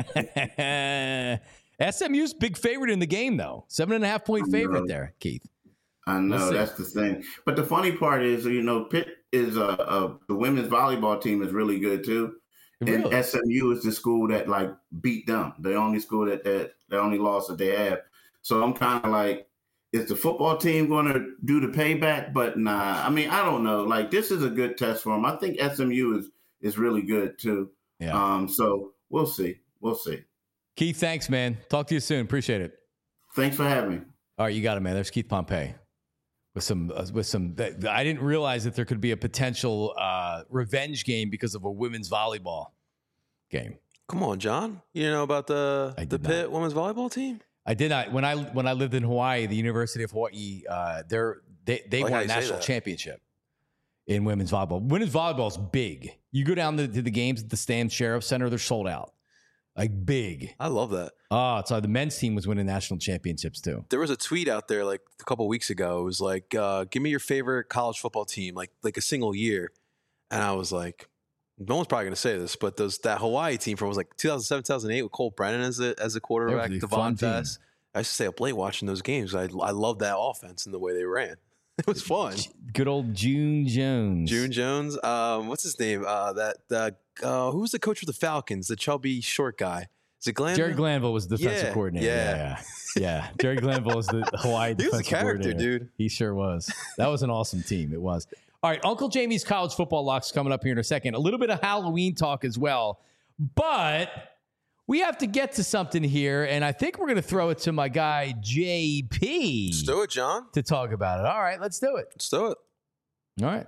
SMU's big favorite in the game, though. 7.5-point favorite there, Keith. I know, that's the thing. But the funny part is, you know, Pitt is the women's volleyball team is really good, too. Really? And SMU is the school that, like, beat them. The only school the only loss that they have. So I'm kind of like, is the football team going to do the payback? But nah, I mean, I don't know. Like, this is a good test for them. I think SMU is really good too. Yeah. So we'll see. Keith, thanks, man. Talk to you soon. Appreciate it. Thanks for having me. All right, you got it, man. There's Keith Pompey with some. I didn't realize that there could be a potential revenge game because of a women's volleyball game. Come on, John. You know about the Pitt women's volleyball team? I did not. When I lived in Hawaii, the University of Hawaii, they won a national championship in women's volleyball. Women's volleyball is big. You go down to the games at the Stan Sheriff Center, they're sold out. Like big. I love that. Oh, so the men's team was winning national championships too. There was a tweet out there like a couple of weeks ago. It was like, give me your favorite college football team, like a single year. And I was like, no one's probably going to say this, but that Hawaii team from was like 2007, 2008 with Cole Brennan as a quarterback, Devon Fest. I used to stay up late watching those games. I loved that offense and the way they ran. It was fun. Good old June Jones. What's his name? Who was the coach for the Falcons? The chubby short guy. Is it Glanville? Jerry Glanville was the defensive coordinator. Yeah. Jerry Glanville was the Hawaii defensive coordinator. He was a character, dude. He sure was. That was an awesome team. It was. All right, Uncle Jamie's college football lock's coming up here in a second. A little bit of Halloween talk as well. But we have to get to something here, and I think we're going to throw it to my guy, JP. Let's do it, John. To talk about it. All right, let's do it. Let's do it. All right.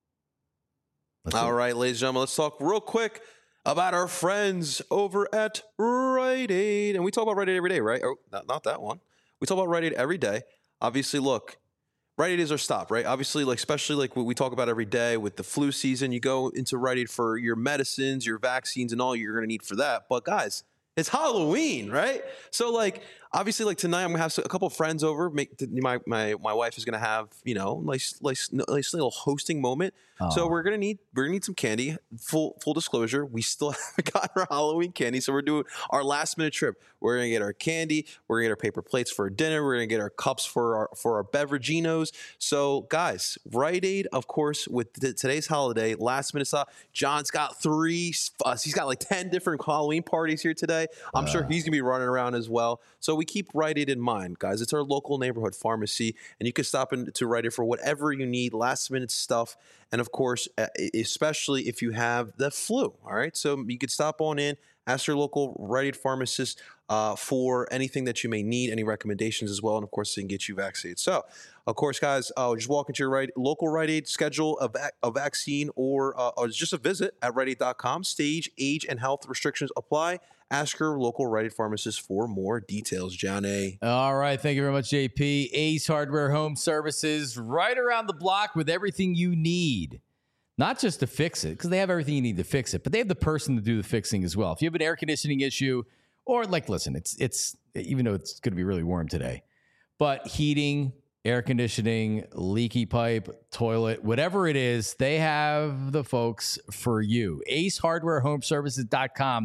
All right, ladies and gentlemen, let's talk real quick about our friends over at Rite Aid. And we talk about Rite Aid every day, right? Oh, not that one. We talk about Rite Aid every day. Obviously, look. Rite Aid is our stop, right? Obviously, especially what we talk about every day with the flu season, you go into Rite Aid for your medicines, your vaccines, and all you're going to need for that. But guys, it's Halloween, right? So obviously, tonight I'm gonna have a couple of friends over. My wife is gonna have nice little hosting moment. Oh. So we're gonna need some candy. Full disclosure, we still haven't gotten our Halloween candy, so we're doing our last minute trip. We're gonna get our candy. We're gonna get our paper plates for dinner. We're gonna get our cups for our beveraginos. So guys, Rite Aid, of course, with today's holiday, last minute stop. John's got 3. He's got 10 different Halloween parties here today. I'm sure he's gonna be running around as well. So we keep Rite Aid in mind, guys. It's our local neighborhood pharmacy, and you can stop into Rite Aid for whatever you need, last minute stuff. And of course, especially if you have the flu, all right? So you could stop on in, ask your local Rite Aid pharmacist for anything that you may need, any recommendations as well. And of course, they can get you vaccinated. So, of course, guys, just walk into your local Rite Aid, schedule a vaccine or just a visit at RiteAid.com. Stage, age, and health restrictions apply. Ask your local Rite Aid pharmacist for more details, John A. All right. Thank you very much, JP. Ace Hardware Home Services, right around the block with everything you need. Not just to fix it, because they have everything you need to fix it, but they have the person to do the fixing as well. If you have an air conditioning issue, or listen, it's even though it's going to be really warm today, but heating, air conditioning, leaky pipe, toilet, whatever it is, they have the folks for you. AceHardwareHomeservices.com.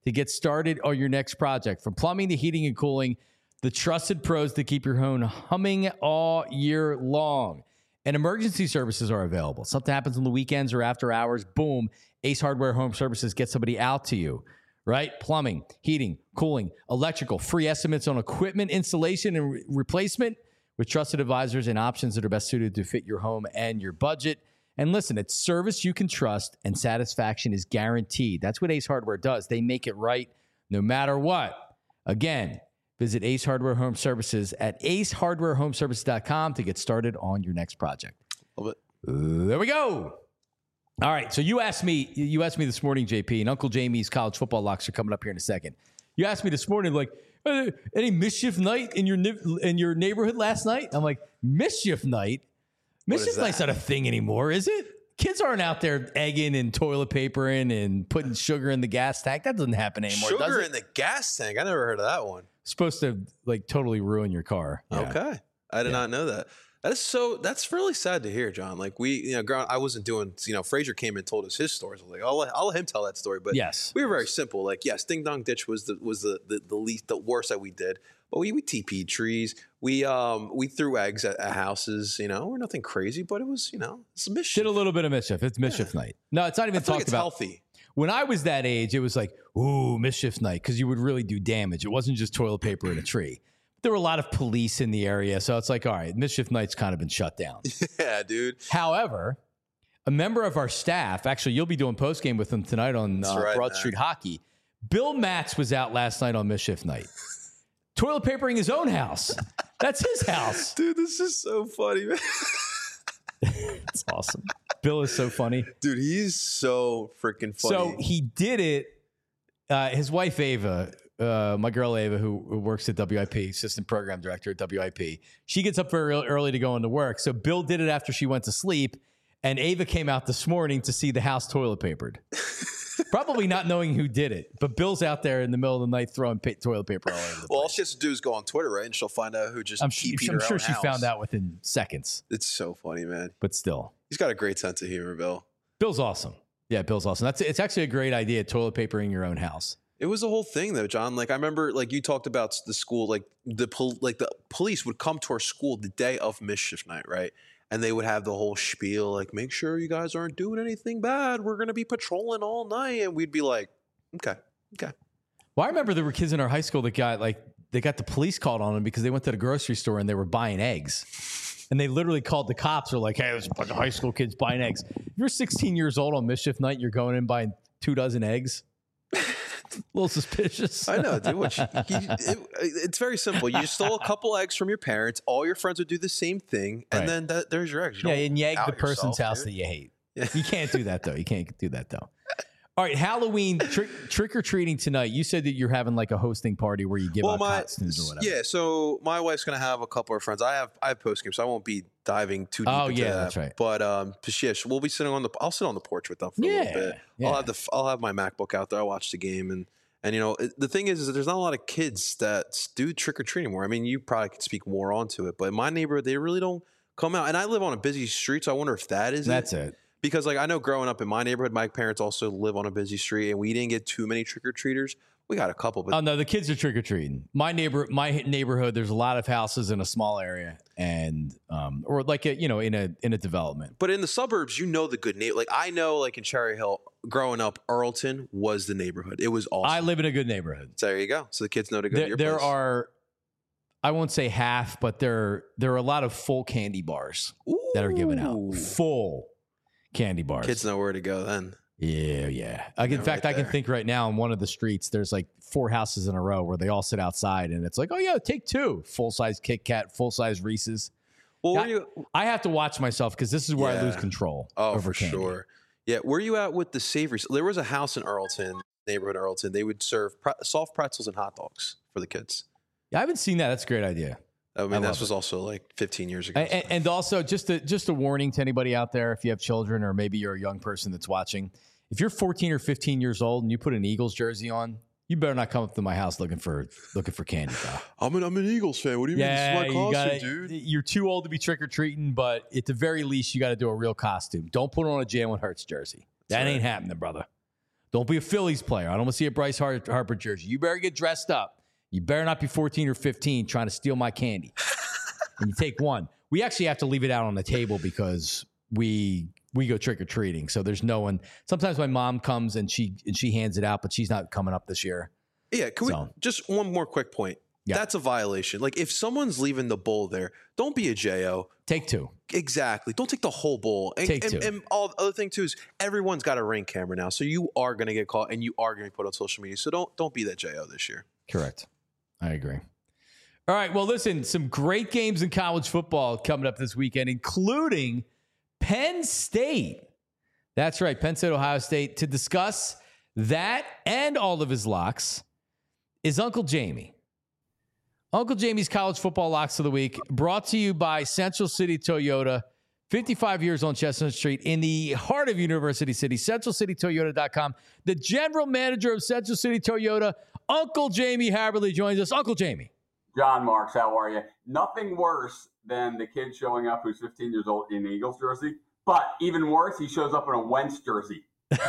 to get started on your next project. From plumbing to heating and cooling, the trusted pros that keep your home humming all year long. And emergency services are available. Something happens on the weekends or after hours, boom, Ace Hardware Home Services gets somebody out to you, right? Plumbing, heating, cooling, electrical, free estimates on equipment installation and replacement with trusted advisors and options that are best suited to fit your home and your budget. And listen, it's service you can trust and satisfaction is guaranteed. That's what Ace Hardware does. They make it right no matter what. Again, visit Ace Hardware Home Services at acehardwarehomeservices.com to get started on your next project. Love it. There we go. All right. So you asked me this morning, JP, and Uncle Jamie's college football locks are coming up here in a second. You asked me this morning, like, any mischief night in your neighborhood last night? I'm like, mischief night? Mischief night's not a thing anymore, is it? Kids aren't out there egging and toilet papering and putting sugar in the gas tank. That doesn't happen anymore, does it? Sugar in the gas tank? I never heard of that one. Supposed to like totally ruin your car. Yeah. Okay. I did not know that. That's really sad to hear, John. Like I wasn't doing, Frazier came and told us his stories. I was like, I'll let him tell that story. But yes, we were very simple. Like, yes, Ding Dong Ditch was the worst that we did. But we TP'd trees. We threw eggs at houses. We're nothing crazy, but it was, it's mischief. Did a little bit of mischief. It's mischief night. No, it's not even talked about. Healthy. When I was that age, it was like, ooh, mischief night, because you would really do damage. It wasn't just toilet paper in a tree. There were a lot of police in the area, so it's like, all right, mischief night's kind of been shut down. Yeah, dude. However, a member of our staff, actually, you'll be doing postgame with them tonight on Broad Street Hockey. Bill Matz was out last night on mischief night. Toilet papering his own house. That's his house. Dude, this is so funny, man. It's awesome. Bill is so funny. Dude, he's so freaking funny. So he did it. His wife, Ava, my girl, Ava, who works at WIP, assistant program director at WIP, she gets up very early to go into work. So Bill did it after she went to sleep. And Ava came out this morning to see the house toilet papered. Probably not knowing who did it, but Bill's out there in the middle of the night throwing toilet paper all over the place. Well, all she has to do is go on Twitter, right? And she'll find out who just I'm sure she found out within seconds. It's so funny, man. But still. He's got a great sense of humor, Bill. Bill's awesome. Yeah, Bill's awesome. It's actually a great idea, toilet papering your own house. It was a whole thing, though, John. Like, I remember, like, you talked about the school, like, the police would come to our school the day of mischief night, right? And they would have the whole spiel, like, make sure you guys aren't doing anything bad. We're going to be patrolling all night. And we'd be like, okay. Well, I remember there were kids in our high school that got the police called on them because they went to the grocery store and they were buying eggs. And they literally called the cops. They're like, hey, there's a bunch of high school kids buying eggs. If you're 16 years old on mischief night, you're going in buying 2 dozen eggs. A little suspicious. I know, dude. It's very simple. You stole a couple eggs from your parents. All your friends would do the same thing, and then there's your eggs. And you egg the person's house that you hate. Yeah. You can't do that, though. You can't do that, though. All right, Halloween trick-or-treating tonight. You said that you're having like a hosting party where you give out costumes or whatever. Yeah, so my wife's going to have a couple of friends. I have post-game, so I won't be diving too deep into that. That's right. But we'll be sitting I'll sit on the porch with them for a little bit. Yeah. I'll have my MacBook out there. I'll watch the game. And the thing is that there's not a lot of kids that do trick-or-treating anymore. I mean, you probably could speak more onto it. But in my neighborhood, they really don't come out. And I live on a busy street, so I wonder if that's it. Because, like, I know growing up in my neighborhood, my parents also live on a busy street, and we didn't get too many trick-or-treaters. We got a couple. But no, the kids are trick-or-treating. My neighborhood, there's a lot of houses in a small area, and or like in a development. But in the suburbs, the good neighbor. Like, I know, like, in Cherry Hill, growing up, Earlton was the neighborhood. It was awesome. I live in a good neighborhood. So there you go. So the kids know to go to your place. There are, I won't say half, but there are a lot of full candy bars that are given out. Full candy bars. Kids know where to go then. Yeah. In fact, I can think right now on one of the streets, there's like 4 houses in a row where they all sit outside and it's like, oh yeah, take 2 full-size Kit Kat, full-size Reese's. Well, I have to watch myself because this is where I lose control. Oh, for candy. Sure. Yeah. Where are you at with the savories? There was a house in neighborhood Earlton. They would serve soft pretzels and hot dogs for the kids. Yeah, I haven't seen that. That's a great idea. I mean, this was also like 15 years ago. And also, just a warning to anybody out there, if you have children or maybe you're a young person that's watching, if you're 14 or 15 years old and you put an Eagles jersey on, you better not come up to my house looking for candy, pal. I'm an Eagles fan. What do you mean? This is my costume, dude. You're too old to be trick-or-treating, but at the very least, you got to do a real costume. Don't put on a Jalen Hurts jersey. That ain't happening, brother. Don't be a Phillies player. I don't want to see a Bryce Harper jersey. You better get dressed up. You better not be 14 or 15 trying to steal my candy. And you take one. We actually have to leave it out on the table because we go trick-or-treating. So there's no one. Sometimes my mom comes and she hands it out, but she's not coming up this year. Yeah, we just one more quick point. Yeah. That's a violation. Like, if someone's leaving the bowl there, don't be a JO. Take two. Exactly. Don't take the whole bowl. And, take two. And all the other thing, too, is everyone's got a Ring camera now. So you are going to get caught and you are going to be put on social media. So don't be that JO this year. Correct. I agree. All right. Well, listen, some great games in college football coming up this weekend, including Penn State. That's right. Penn State, Ohio State. To discuss that and all of his locks is Uncle Jamie. Uncle Jamie's College Football Locks of the Week, brought to you by Central City Toyota, 55 years on Chestnut Street in the heart of University City, centralcitytoyota.com. The general manager of Central City Toyota, Uncle Jamie Haberly, joins us. Uncle Jamie. John Marks, how are you? Nothing worse than the kid showing up who's 15 years old in an Eagles jersey, but even worse, he shows up in a Wentz jersey.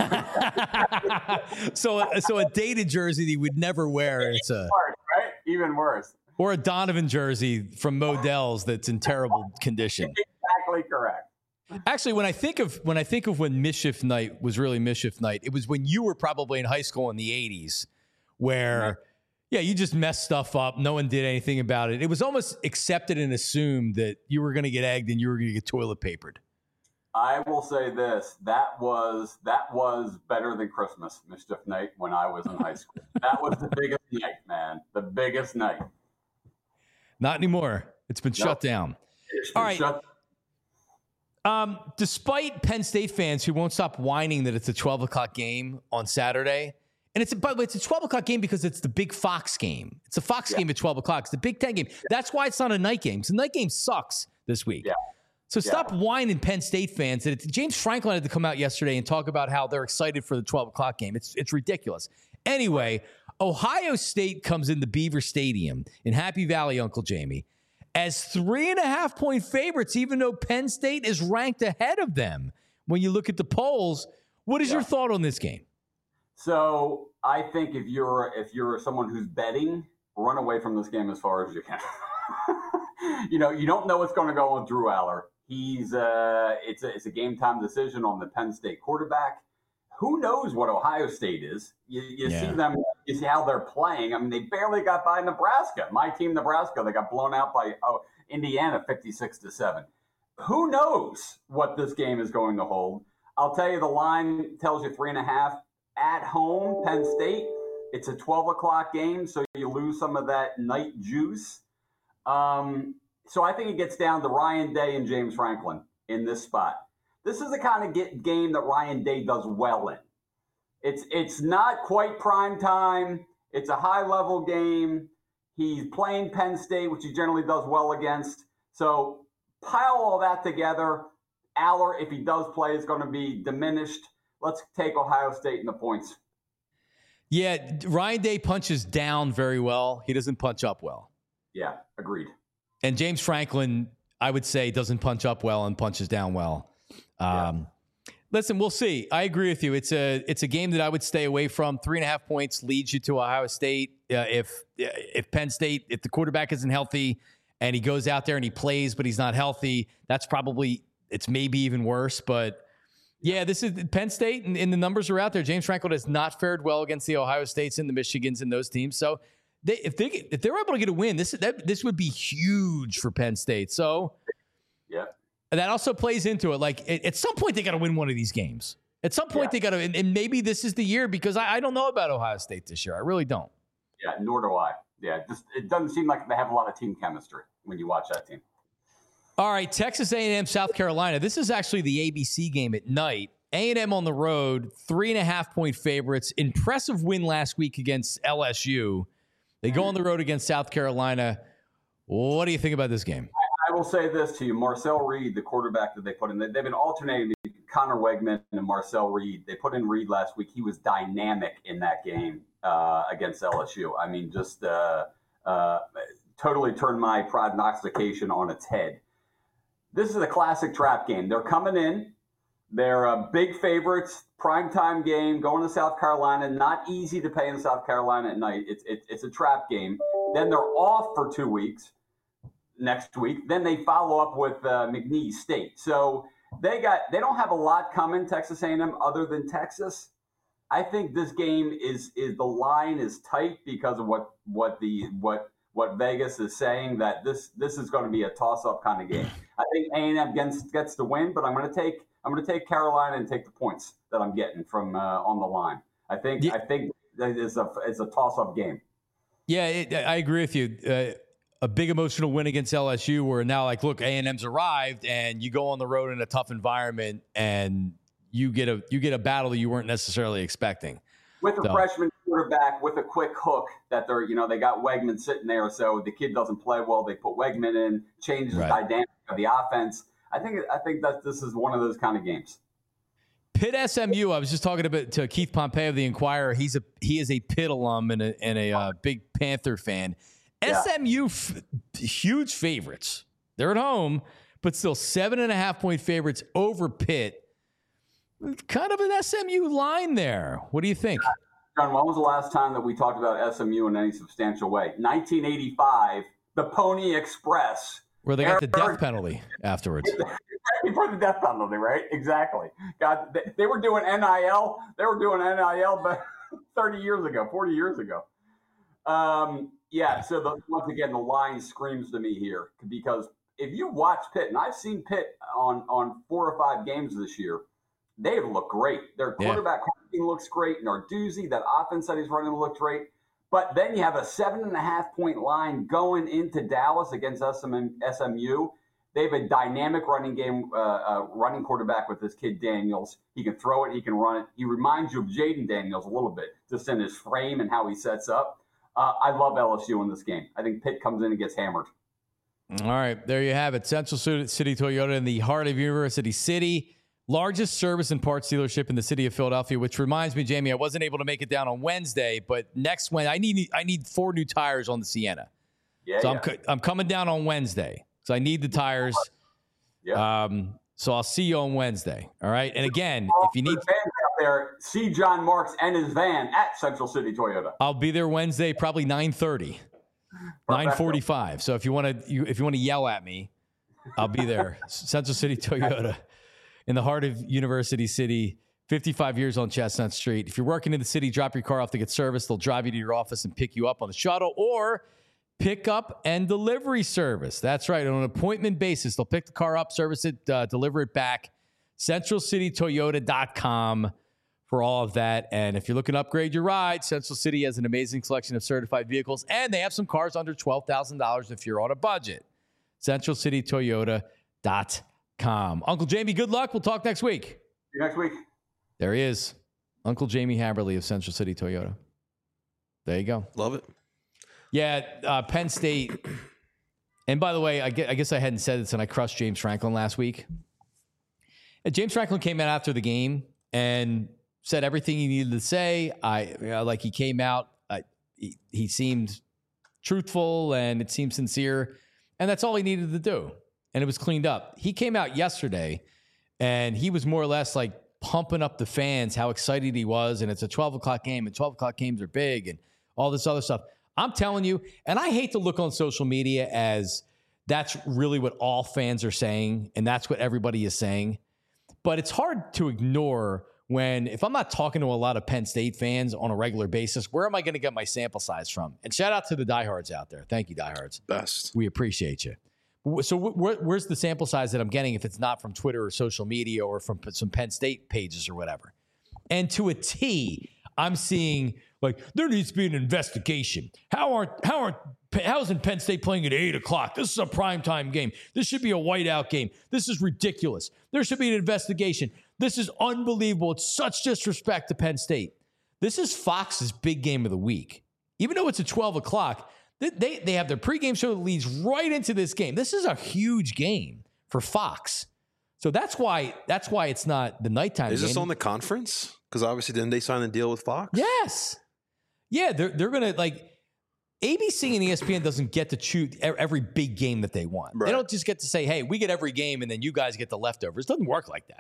So a dated jersey that he would never wear. It's a worse, right? Even worse. Or a Donovan jersey from Modell's that's in terrible condition. Exactly correct. Actually, when I think of when Mischief Night was really Mischief Night, it was when you were probably in high school in the 80s, where you just messed stuff up. No one did anything about it. It was almost accepted and assumed that you were going to get egged and you were going to get toilet papered. I will say this: that was better than Christmas Mischief Night when I was in high school. That was the biggest night, man. The biggest night. Not anymore. It's been shut down. All right. Despite Penn State fans who won't stop whining that it's a 12 o'clock game on Saturday, and by the way, it's a 12 o'clock game because it's the big Fox game. It's a Fox game at 12 o'clock. It's the Big Ten game. That's why it's not a night game. So the night game sucks this week. Yeah. So stop whining, Penn State fans. James Franklin had to come out yesterday and talk about how they're excited for the 12 o'clock game. It's ridiculous. Anyway, Ohio State comes into Beaver Stadium in Happy Valley, Uncle Jamie, as 3.5-point favorites, even though Penn State is ranked ahead of them. When you look at the polls, what is your thought on this game? So I think if you're someone who's betting, run away from this game as far as you can. You don't know what's going to go on Drew Aller. It's a game time decision on the Penn State quarterback. Who knows what Ohio State is? You see them, you see how they're playing. I mean, they barely got by Nebraska. My team, Nebraska, they got blown out by Indiana 56-7. Who knows what this game is going to hold? I'll tell you, the line tells you 3.5 at home, Penn State. It's a 12 o'clock game, so you lose some of that night juice. So I think it gets down to Ryan Day and James Franklin in this spot. This is the kind of game that Ryan Day does well in. It's not quite prime time. It's a high-level game. He's playing Penn State, which he generally does well against. So pile all that together. Aller, if he does play, is going to be diminished. Let's take Ohio State in the points. Yeah, Ryan Day punches down very well. He doesn't punch up well. Yeah, agreed. And James Franklin, I would say, doesn't punch up well and punches down well. Listen, we'll see. I agree with you. It's a game that I would stay away from. 3.5 points leads you to Ohio State. If Penn State, if the quarterback isn't healthy and he goes out there and he plays, but he's not healthy, it's maybe even worse. But yeah, this is Penn State, and the numbers are out there. James Franklin has not fared well against the Ohio States and the Michigans and those teams. So if they're able to get a win, this would be huge for Penn State. So yeah. That also plays into it. Like, at some point, they got to win one of these games. At some point, they got to, and maybe this is the year, because I don't know about Ohio State this year. I really don't. Yeah, nor do I. Yeah, it doesn't seem like they have a lot of team chemistry when you watch that team. All right, Texas A&M, South Carolina. This is actually the ABC game at night. A&M on the road, 3.5-point favorites. Impressive win last week against LSU. They go on the road against South Carolina. What do you think about this game? I will say this to you. Marcel Reed, the quarterback that they put in, they've been alternating Connor Wegman and Marcel Reed. They put in Reed last week. He was dynamic in that game against LSU. I mean, just totally turned my prognostication on its head. This is a classic trap game. They're coming in. They're big favorites, primetime game, going to South Carolina. Not easy to pay in South Carolina at night. It's a trap game. Then they're off for 2 weeks next week. Then they follow up with McNeese State. So they don't have a lot coming, Texas A&M, other than Texas. I think this game is the line is tight because of what Vegas is saying, that this is going to be a toss-up kind of game. I think A&M gets the win, but I'm going to take Carolina and take the points that I'm getting from on the line. I think it's a toss-up game. Yeah, I agree with you. A big emotional win against LSU, where now, like, look, A&M's arrived, and you go on the road in a tough environment, and you get a battle that you weren't necessarily expecting. With a freshman quarterback with a quick hook that they got Wegman sitting there, so the kid doesn't play well. They put Wegman in, changes the dynamic of the offense. I think that this is one of those kind of games. Pitt SMU. I was just talking to Keith Pompey of the Inquirer. He is a Pitt alum and a big Panther fan. Yeah. SMU huge favorites. They're at home, but still 7.5 point favorites over Pitt. Kind of an SMU line there. What do you think? John, when was the last time that we talked about SMU in any substantial way? 1985, the Pony Express. Where they got the death penalty afterwards. Before the death penalty, right? Exactly. God, they were doing NIL. They were doing NIL but 30 years ago, 40 years ago. So once again, the line screams to me here, because if you watch Pitt, and I've seen Pitt on 4 or 5 games this year, they look great. Their quarterback looks great. Narduzzi, that offense that he's running, looks great. But then you have a 7.5 point line going into Dallas against SMU. They have a dynamic running game, running quarterback with this kid Daniels. He can throw it, he can run it. He reminds you of Jaden Daniels a little bit, just in his frame and how he sets up. I love LSU in this game. I think Pitt comes in and gets hammered. All right, there you have it. Central City Toyota in the heart of University City. Largest service and parts dealership in the city of Philadelphia, which reminds me, Jamie, I wasn't able to make it down on Wednesday, but next Wednesday, I need 4 new tires on the Sienna. I'm coming down on Wednesday, so I need the tires. Yeah. So I'll see you on Wednesday. All right. And again, if you need fans out there, see John Marks and his van at Central City Toyota. I'll be there Wednesday, probably 9:30, 9:45. So if you want to yell at me, I'll be there. Central City Toyota. In the heart of University City, 55 years on Chestnut Street. If you're working in the city, drop your car off to get service. They'll drive you to your office and pick you up on the shuttle, or pick up and delivery service. That's right. On an appointment basis, they'll pick the car up, service it, deliver it back. CentralCityToyota.com for all of that. And if you're looking to upgrade your ride, Central City has an amazing selection of certified vehicles, and they have some cars under $12,000 if you're on a budget. CentralCityToyota.com. Uncle Jamie, good luck. We'll talk next week. See you next week. There he is. Uncle Jamie Haberly of Central City Toyota. There you go. Love it. Yeah, Penn State. And by the way, I guess I hadn't said this, and I crushed James Franklin last week. And James Franklin came out after the game and said everything he needed to say. He came out. He seemed truthful, and it seemed sincere. And that's all he needed to do. And it was cleaned up. He came out yesterday, and he was more or less like pumping up the fans, how excited he was. And it's a 12 o'clock game, and 12 o'clock games are big, and all this other stuff. I'm telling you, and I hate to look on social media as that's really what all fans are saying, and that's what everybody is saying. But it's hard to ignore when, if I'm not talking to a lot of Penn State fans on a regular basis, where am I going to get my sample size from? And shout out to the diehards out there. Thank you, diehards. Best. We appreciate you. So where's the sample size that I'm getting if it's not from Twitter or social media or from some Penn State pages or whatever? And to a T, I'm seeing, like, there needs to be an investigation. How isn't Penn State playing at 8 o'clock? This is a primetime game. This should be a whiteout game. This is ridiculous. There should be an investigation. This is unbelievable. It's such disrespect to Penn State. This is Fox's big game of the week. Even though it's at 12 o'clock, they have their pregame show that leads right into this game. This is a huge game for Fox. So that's why it's not the nighttime game. Is this on the conference? Because obviously didn't they sign a deal with Fox? Yes. Yeah, they're going to, like, ABC and ESPN doesn't get to choose every big game that they want. Right. They don't just get to say, hey, we get every game and then you guys get the leftovers. It doesn't work like that.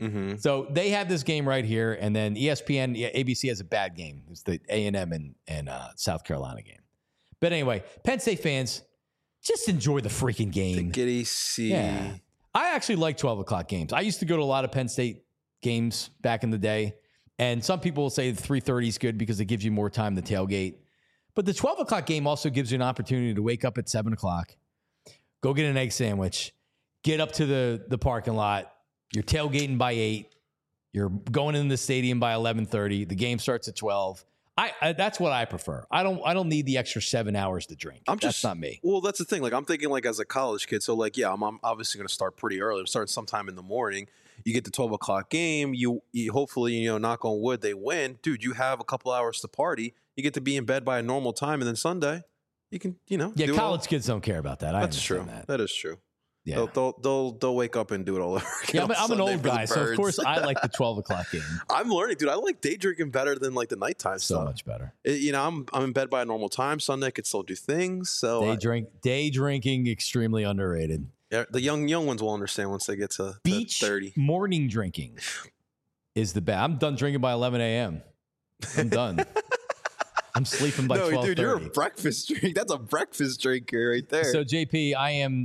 Mm-hmm. So they have this game right here, and then ESPN, ABC has a bad game. It's the A&M and South Carolina game. But anyway, Penn State fans, just enjoy the freaking game. The Giddy C. Yeah. I actually like 12 o'clock games. I used to go to a lot of Penn State games back in the day, and some people will say the 3:30 is good because it gives you more time to tailgate. But the 12 o'clock game also gives you an opportunity to wake up at 7 o'clock, go get an egg sandwich, get up to the parking lot. You're tailgating by 8. You're going in the stadium by 11:30. The game starts at 12. That's what I prefer. I don't need the extra 7 hours to drink. That's not me. Well, that's the thing. Like I'm thinking like as a college kid. So like, yeah, I'm obviously going to start pretty early. I'm starting sometime in the morning. You get the 12 o'clock game. You hopefully, knock on wood, they win. Dude, you have a couple hours to party. You get to be in bed by a normal time. And then Sunday, you can, Yeah, college kids don't care about that. That's true. That is true. Yeah, they'll wake up and do it all over again. Yeah, I'm an old guy, so of course I like the 12 o'clock game. I'm learning, dude. I like day drinking better than like the nighttime stuff. So much better. I'm in bed by a normal time. Sunday I could still do things. So day drinking extremely underrated. Yeah, the young ones will understand once they get to beach 30. Morning drinking is the best. I'm done drinking by 11 a.m. I'm done. I'm sleeping by 12:30. Dude, you're a breakfast drink. That's a breakfast drinker right there. So JP,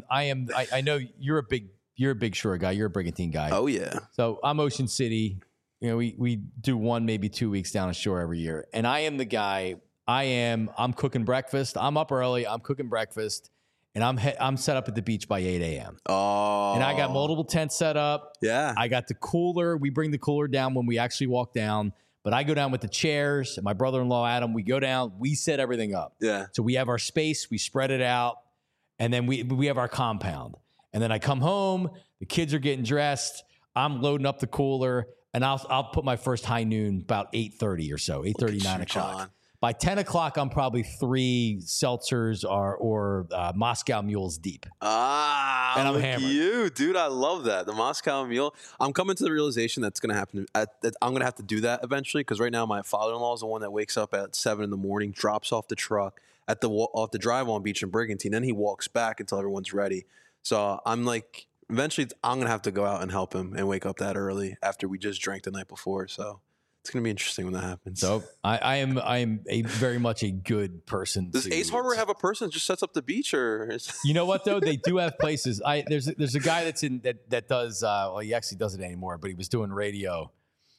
I know you're a big Shore guy. You're a Brigantine guy. Oh yeah. So I'm Ocean City. We do 1, maybe 2 weeks down at Shore every year. And I am the guy. I'm cooking breakfast. I'm up early. I'm cooking breakfast. And I'm set up at the beach by 8 a.m. Oh. And I got multiple tents set up. Yeah. I got the cooler. We bring the cooler down when we actually walk down. But I go down with the chairs. And my brother-in-law, Adam, we go down. We set everything up. Yeah. So we have our space. We spread it out. And then we have our compound. And then I come home. The kids are getting dressed. I'm loading up the cooler. And I'll put my first high noon about 8:30 or so, 8:30, 9 o'clock. John. By 10 o'clock, I'm probably 3 seltzers or Moscow Mules deep. And I'm hammered. You, dude, I love that. The Moscow Mule. I'm coming to the realization that's going to happen. I'm going to have to do that eventually because right now my father-in-law is the one that wakes up at 7 in the morning, drops off the truck off the drive-on beach in Brigantine. Then he walks back until everyone's ready. So I'm like, eventually I'm going to have to go out and help him and wake up that early after we just drank the night before. So it's going to be interesting when that happens. So I am very much a good person. Does Ace Harbor have a person that just sets up the beach, or you know what though? They do have places. There's a guy that's in that does. Well, he actually does it anymore, but he was doing radio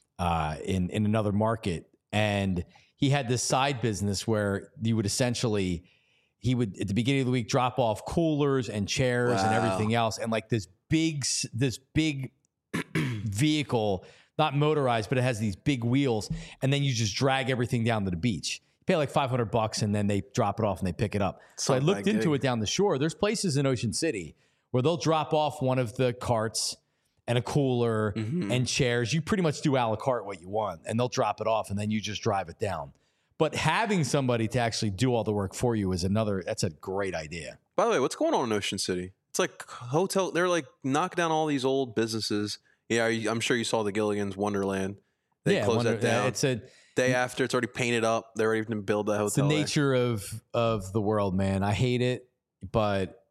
in another market, and he had this side business where you would essentially he would at the beginning of the week drop off coolers and chairs and everything else, and like this big vehicle. Not motorized, but it has these big wheels, and then you just drag everything down to the beach. You pay like $500, and then they drop it off and they pick it up. So I looked into it down the shore. There's places in Ocean City where they'll drop off one of the carts and a cooler and chairs. You pretty much do a la carte what you want, and they'll drop it off, and then you just drive it down. But having somebody to actually do all the work for you that's a great idea. By the way, what's going on in Ocean City? It's like hotel. They're like knocking down all these old businesses. Yeah, I'm sure you saw the Gilligan's Wonderland. They closed that down. It's a day after. It's already painted up. They're ready to build that hotel. It's the nature of the world, man. I hate it, but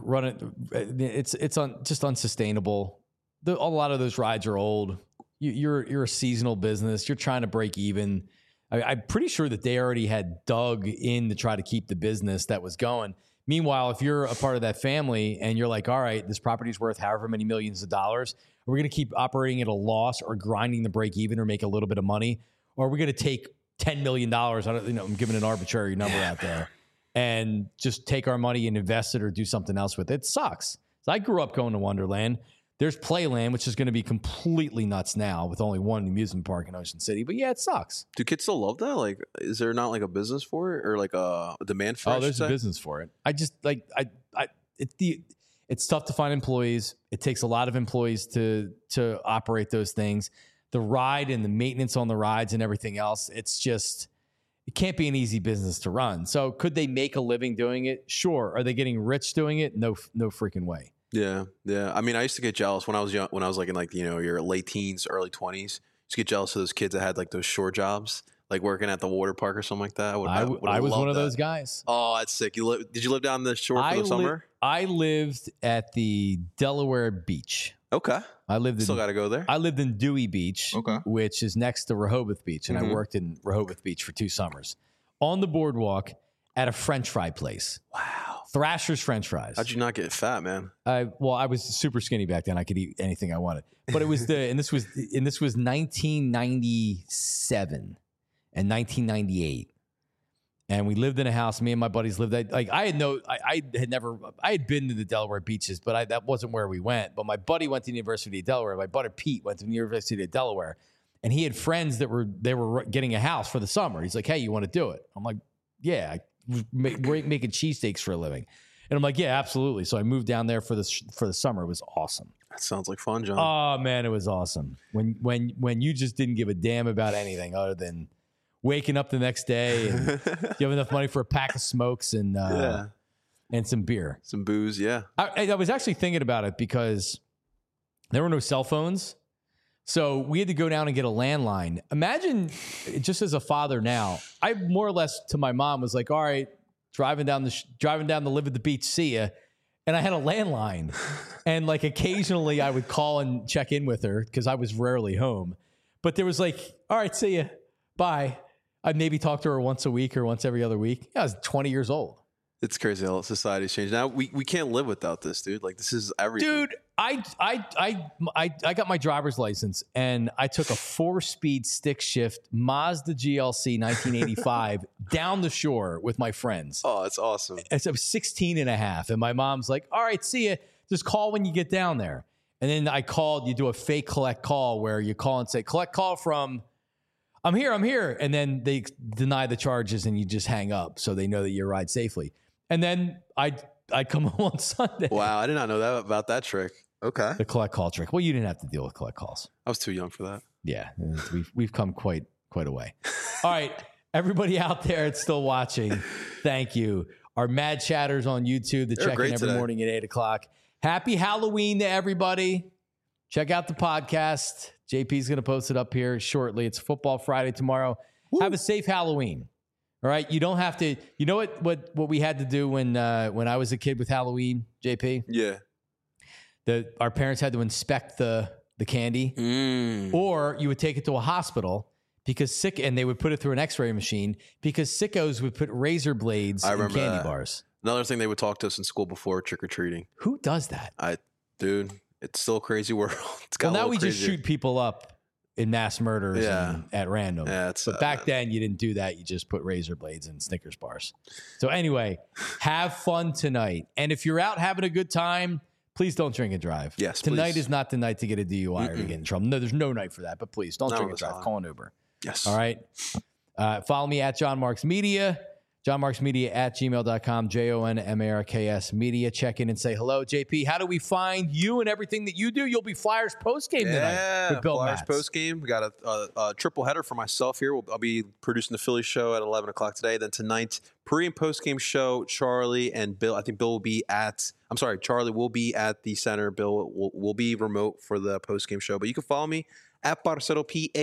it's just unsustainable. A lot of those rides are old. You're a seasonal business. You're trying to break even. I'm pretty sure that they already had dug in to try to keep the business that was going. Meanwhile, if you're a part of that family and you're like, all right, this property's worth however many millions of dollars, are we going to keep operating at a loss or grinding the break even or make a little bit of money? Or are we going to take $10 million, I'm giving an arbitrary number out there, and just take our money and invest it or do something else with it? It sucks. So I grew up going to Wonderland. There's Playland, which is going to be completely nuts now with only one amusement park in Ocean City. But yeah, it sucks. Do kids still love that? Like, is there not like a business for it or like a demand for it? Oh, there's a business for it. I just like it's tough to find employees. It takes a lot of employees to operate those things. The ride and the maintenance on the rides and everything else. It can't be an easy business to run. So could they make a living doing it? Sure. Are they getting rich doing it? No freaking way. Yeah. I mean, I used to get jealous when I was young, when I was like in like, your late teens, early 20s. I used to get jealous of those kids that had like those shore jobs, like working at the water park or something like that. I was one of those guys. Oh, that's sick. Did you live down the shore for the summer? I lived at the Delaware Beach. Okay. Still got to go there. I lived in Dewey Beach, which is next to Rehoboth Beach, and I worked in Rehoboth Beach for 2 summers. On the boardwalk at a French fry place. Wow. Thrasher's French fries. How'd you not get fat, man? Well, I was super skinny back then. I could eat anything I wanted. But it was and this was 1997 and 1998. And we lived in a house. Me and my buddies lived. I had been to the Delaware beaches, but that wasn't where we went. But my buddy went to the University of Delaware. My buddy Pete went to the University of Delaware, and he had friends that were getting a house for the summer. He's like, "Hey, you want to do it?" I'm like, "Yeah." We're making cheesesteaks for a living, and I'm like, "Yeah, absolutely." So I moved down there for the summer. It was awesome. That sounds like fun, John. Oh man, it was awesome. When you just didn't give a damn about anything other than waking up the next day and you have enough money for a pack of smokes and some beer. Some booze, yeah. I was actually thinking about it because there were no cell phones. So we had to go down and get a landline. Imagine, just as a father now, I more or less to my mom was like, all right, driving down to live at the beach, see ya. And I had a landline. And like occasionally I would call and check in with her because I was rarely home. But there was like, all right, see ya, bye. I'd maybe talk to her once a week or once every other week. Yeah, I was 20 years old. It's crazy how society's changed. Now we can't live without this, dude. Like this is everything. Dude, I got my driver's license and I took a 4-speed stick shift Mazda GLC 1985 down the shore with my friends. Oh, it's awesome. And so I was 16 and a half. And my mom's like, all right, see ya. Just call when you get down there. And then I called, you do a fake collect call where you call and say, collect call from... I'm here. And then they deny the charges and you just hang up so they know that you arrived safely. And then I'd come home on Sunday. Wow, I did not know that about that trick. Okay. The collect call trick. Well, you didn't have to deal with collect calls. I was too young for that. Yeah, we've come quite a way. All right, everybody out there that's still watching, thank you. Our mad chatters on YouTube that check in every morning at 8 o'clock. Happy Halloween to everybody. Check out the podcast. JP's going to post it up here shortly. It's Football Friday tomorrow. Woo. Have a safe Halloween. All right. You don't have to. You know what we had to do when I was a kid with Halloween, JP? Yeah. Our parents had to inspect the candy, or you would take it to a hospital and they would put it through an X-ray machine because sickos would put razor blades in candy bars. Another thing they would talk to us in school before trick-or-treating. Who does that? Dude. It's still a crazy world. Now we just shoot people up in mass murders at random. Yeah, but back then you didn't do that. You just put razor blades in Snickers bars. So anyway, have fun tonight. And if you're out having a good time, please don't drink and drive. Yes, tonight please. is not the night to get a DUI or to get in trouble. No, there's no night for that. But please don't drink and drive. Call an Uber. Yes. All right. Follow me at John Marks Media. JohnMarksMedia at gmail.com, JONMARKS Media. Check in and say hello. JP, how do we find you and everything that you do? You'll be Flyers postgame tonight with Bill Flyers Matz. postgame. We got a triple header for myself here. I'll be producing the Philly show at 11 o'clock today. Then tonight, pre and postgame show, Charlie and Bill. I think Bill will be Charlie will be at the center. Bill will be remote for the postgame show. But you can follow me at Parcero,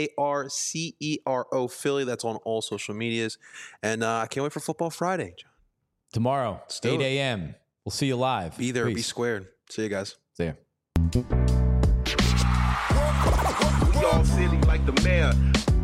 Parcero Philly. That's on all social medias. And I can't wait for Football Friday, John. Tomorrow, 8 a.m. We'll see you live. Be there. Peace. Be squared. See you guys. See ya. We all silly like the mayor.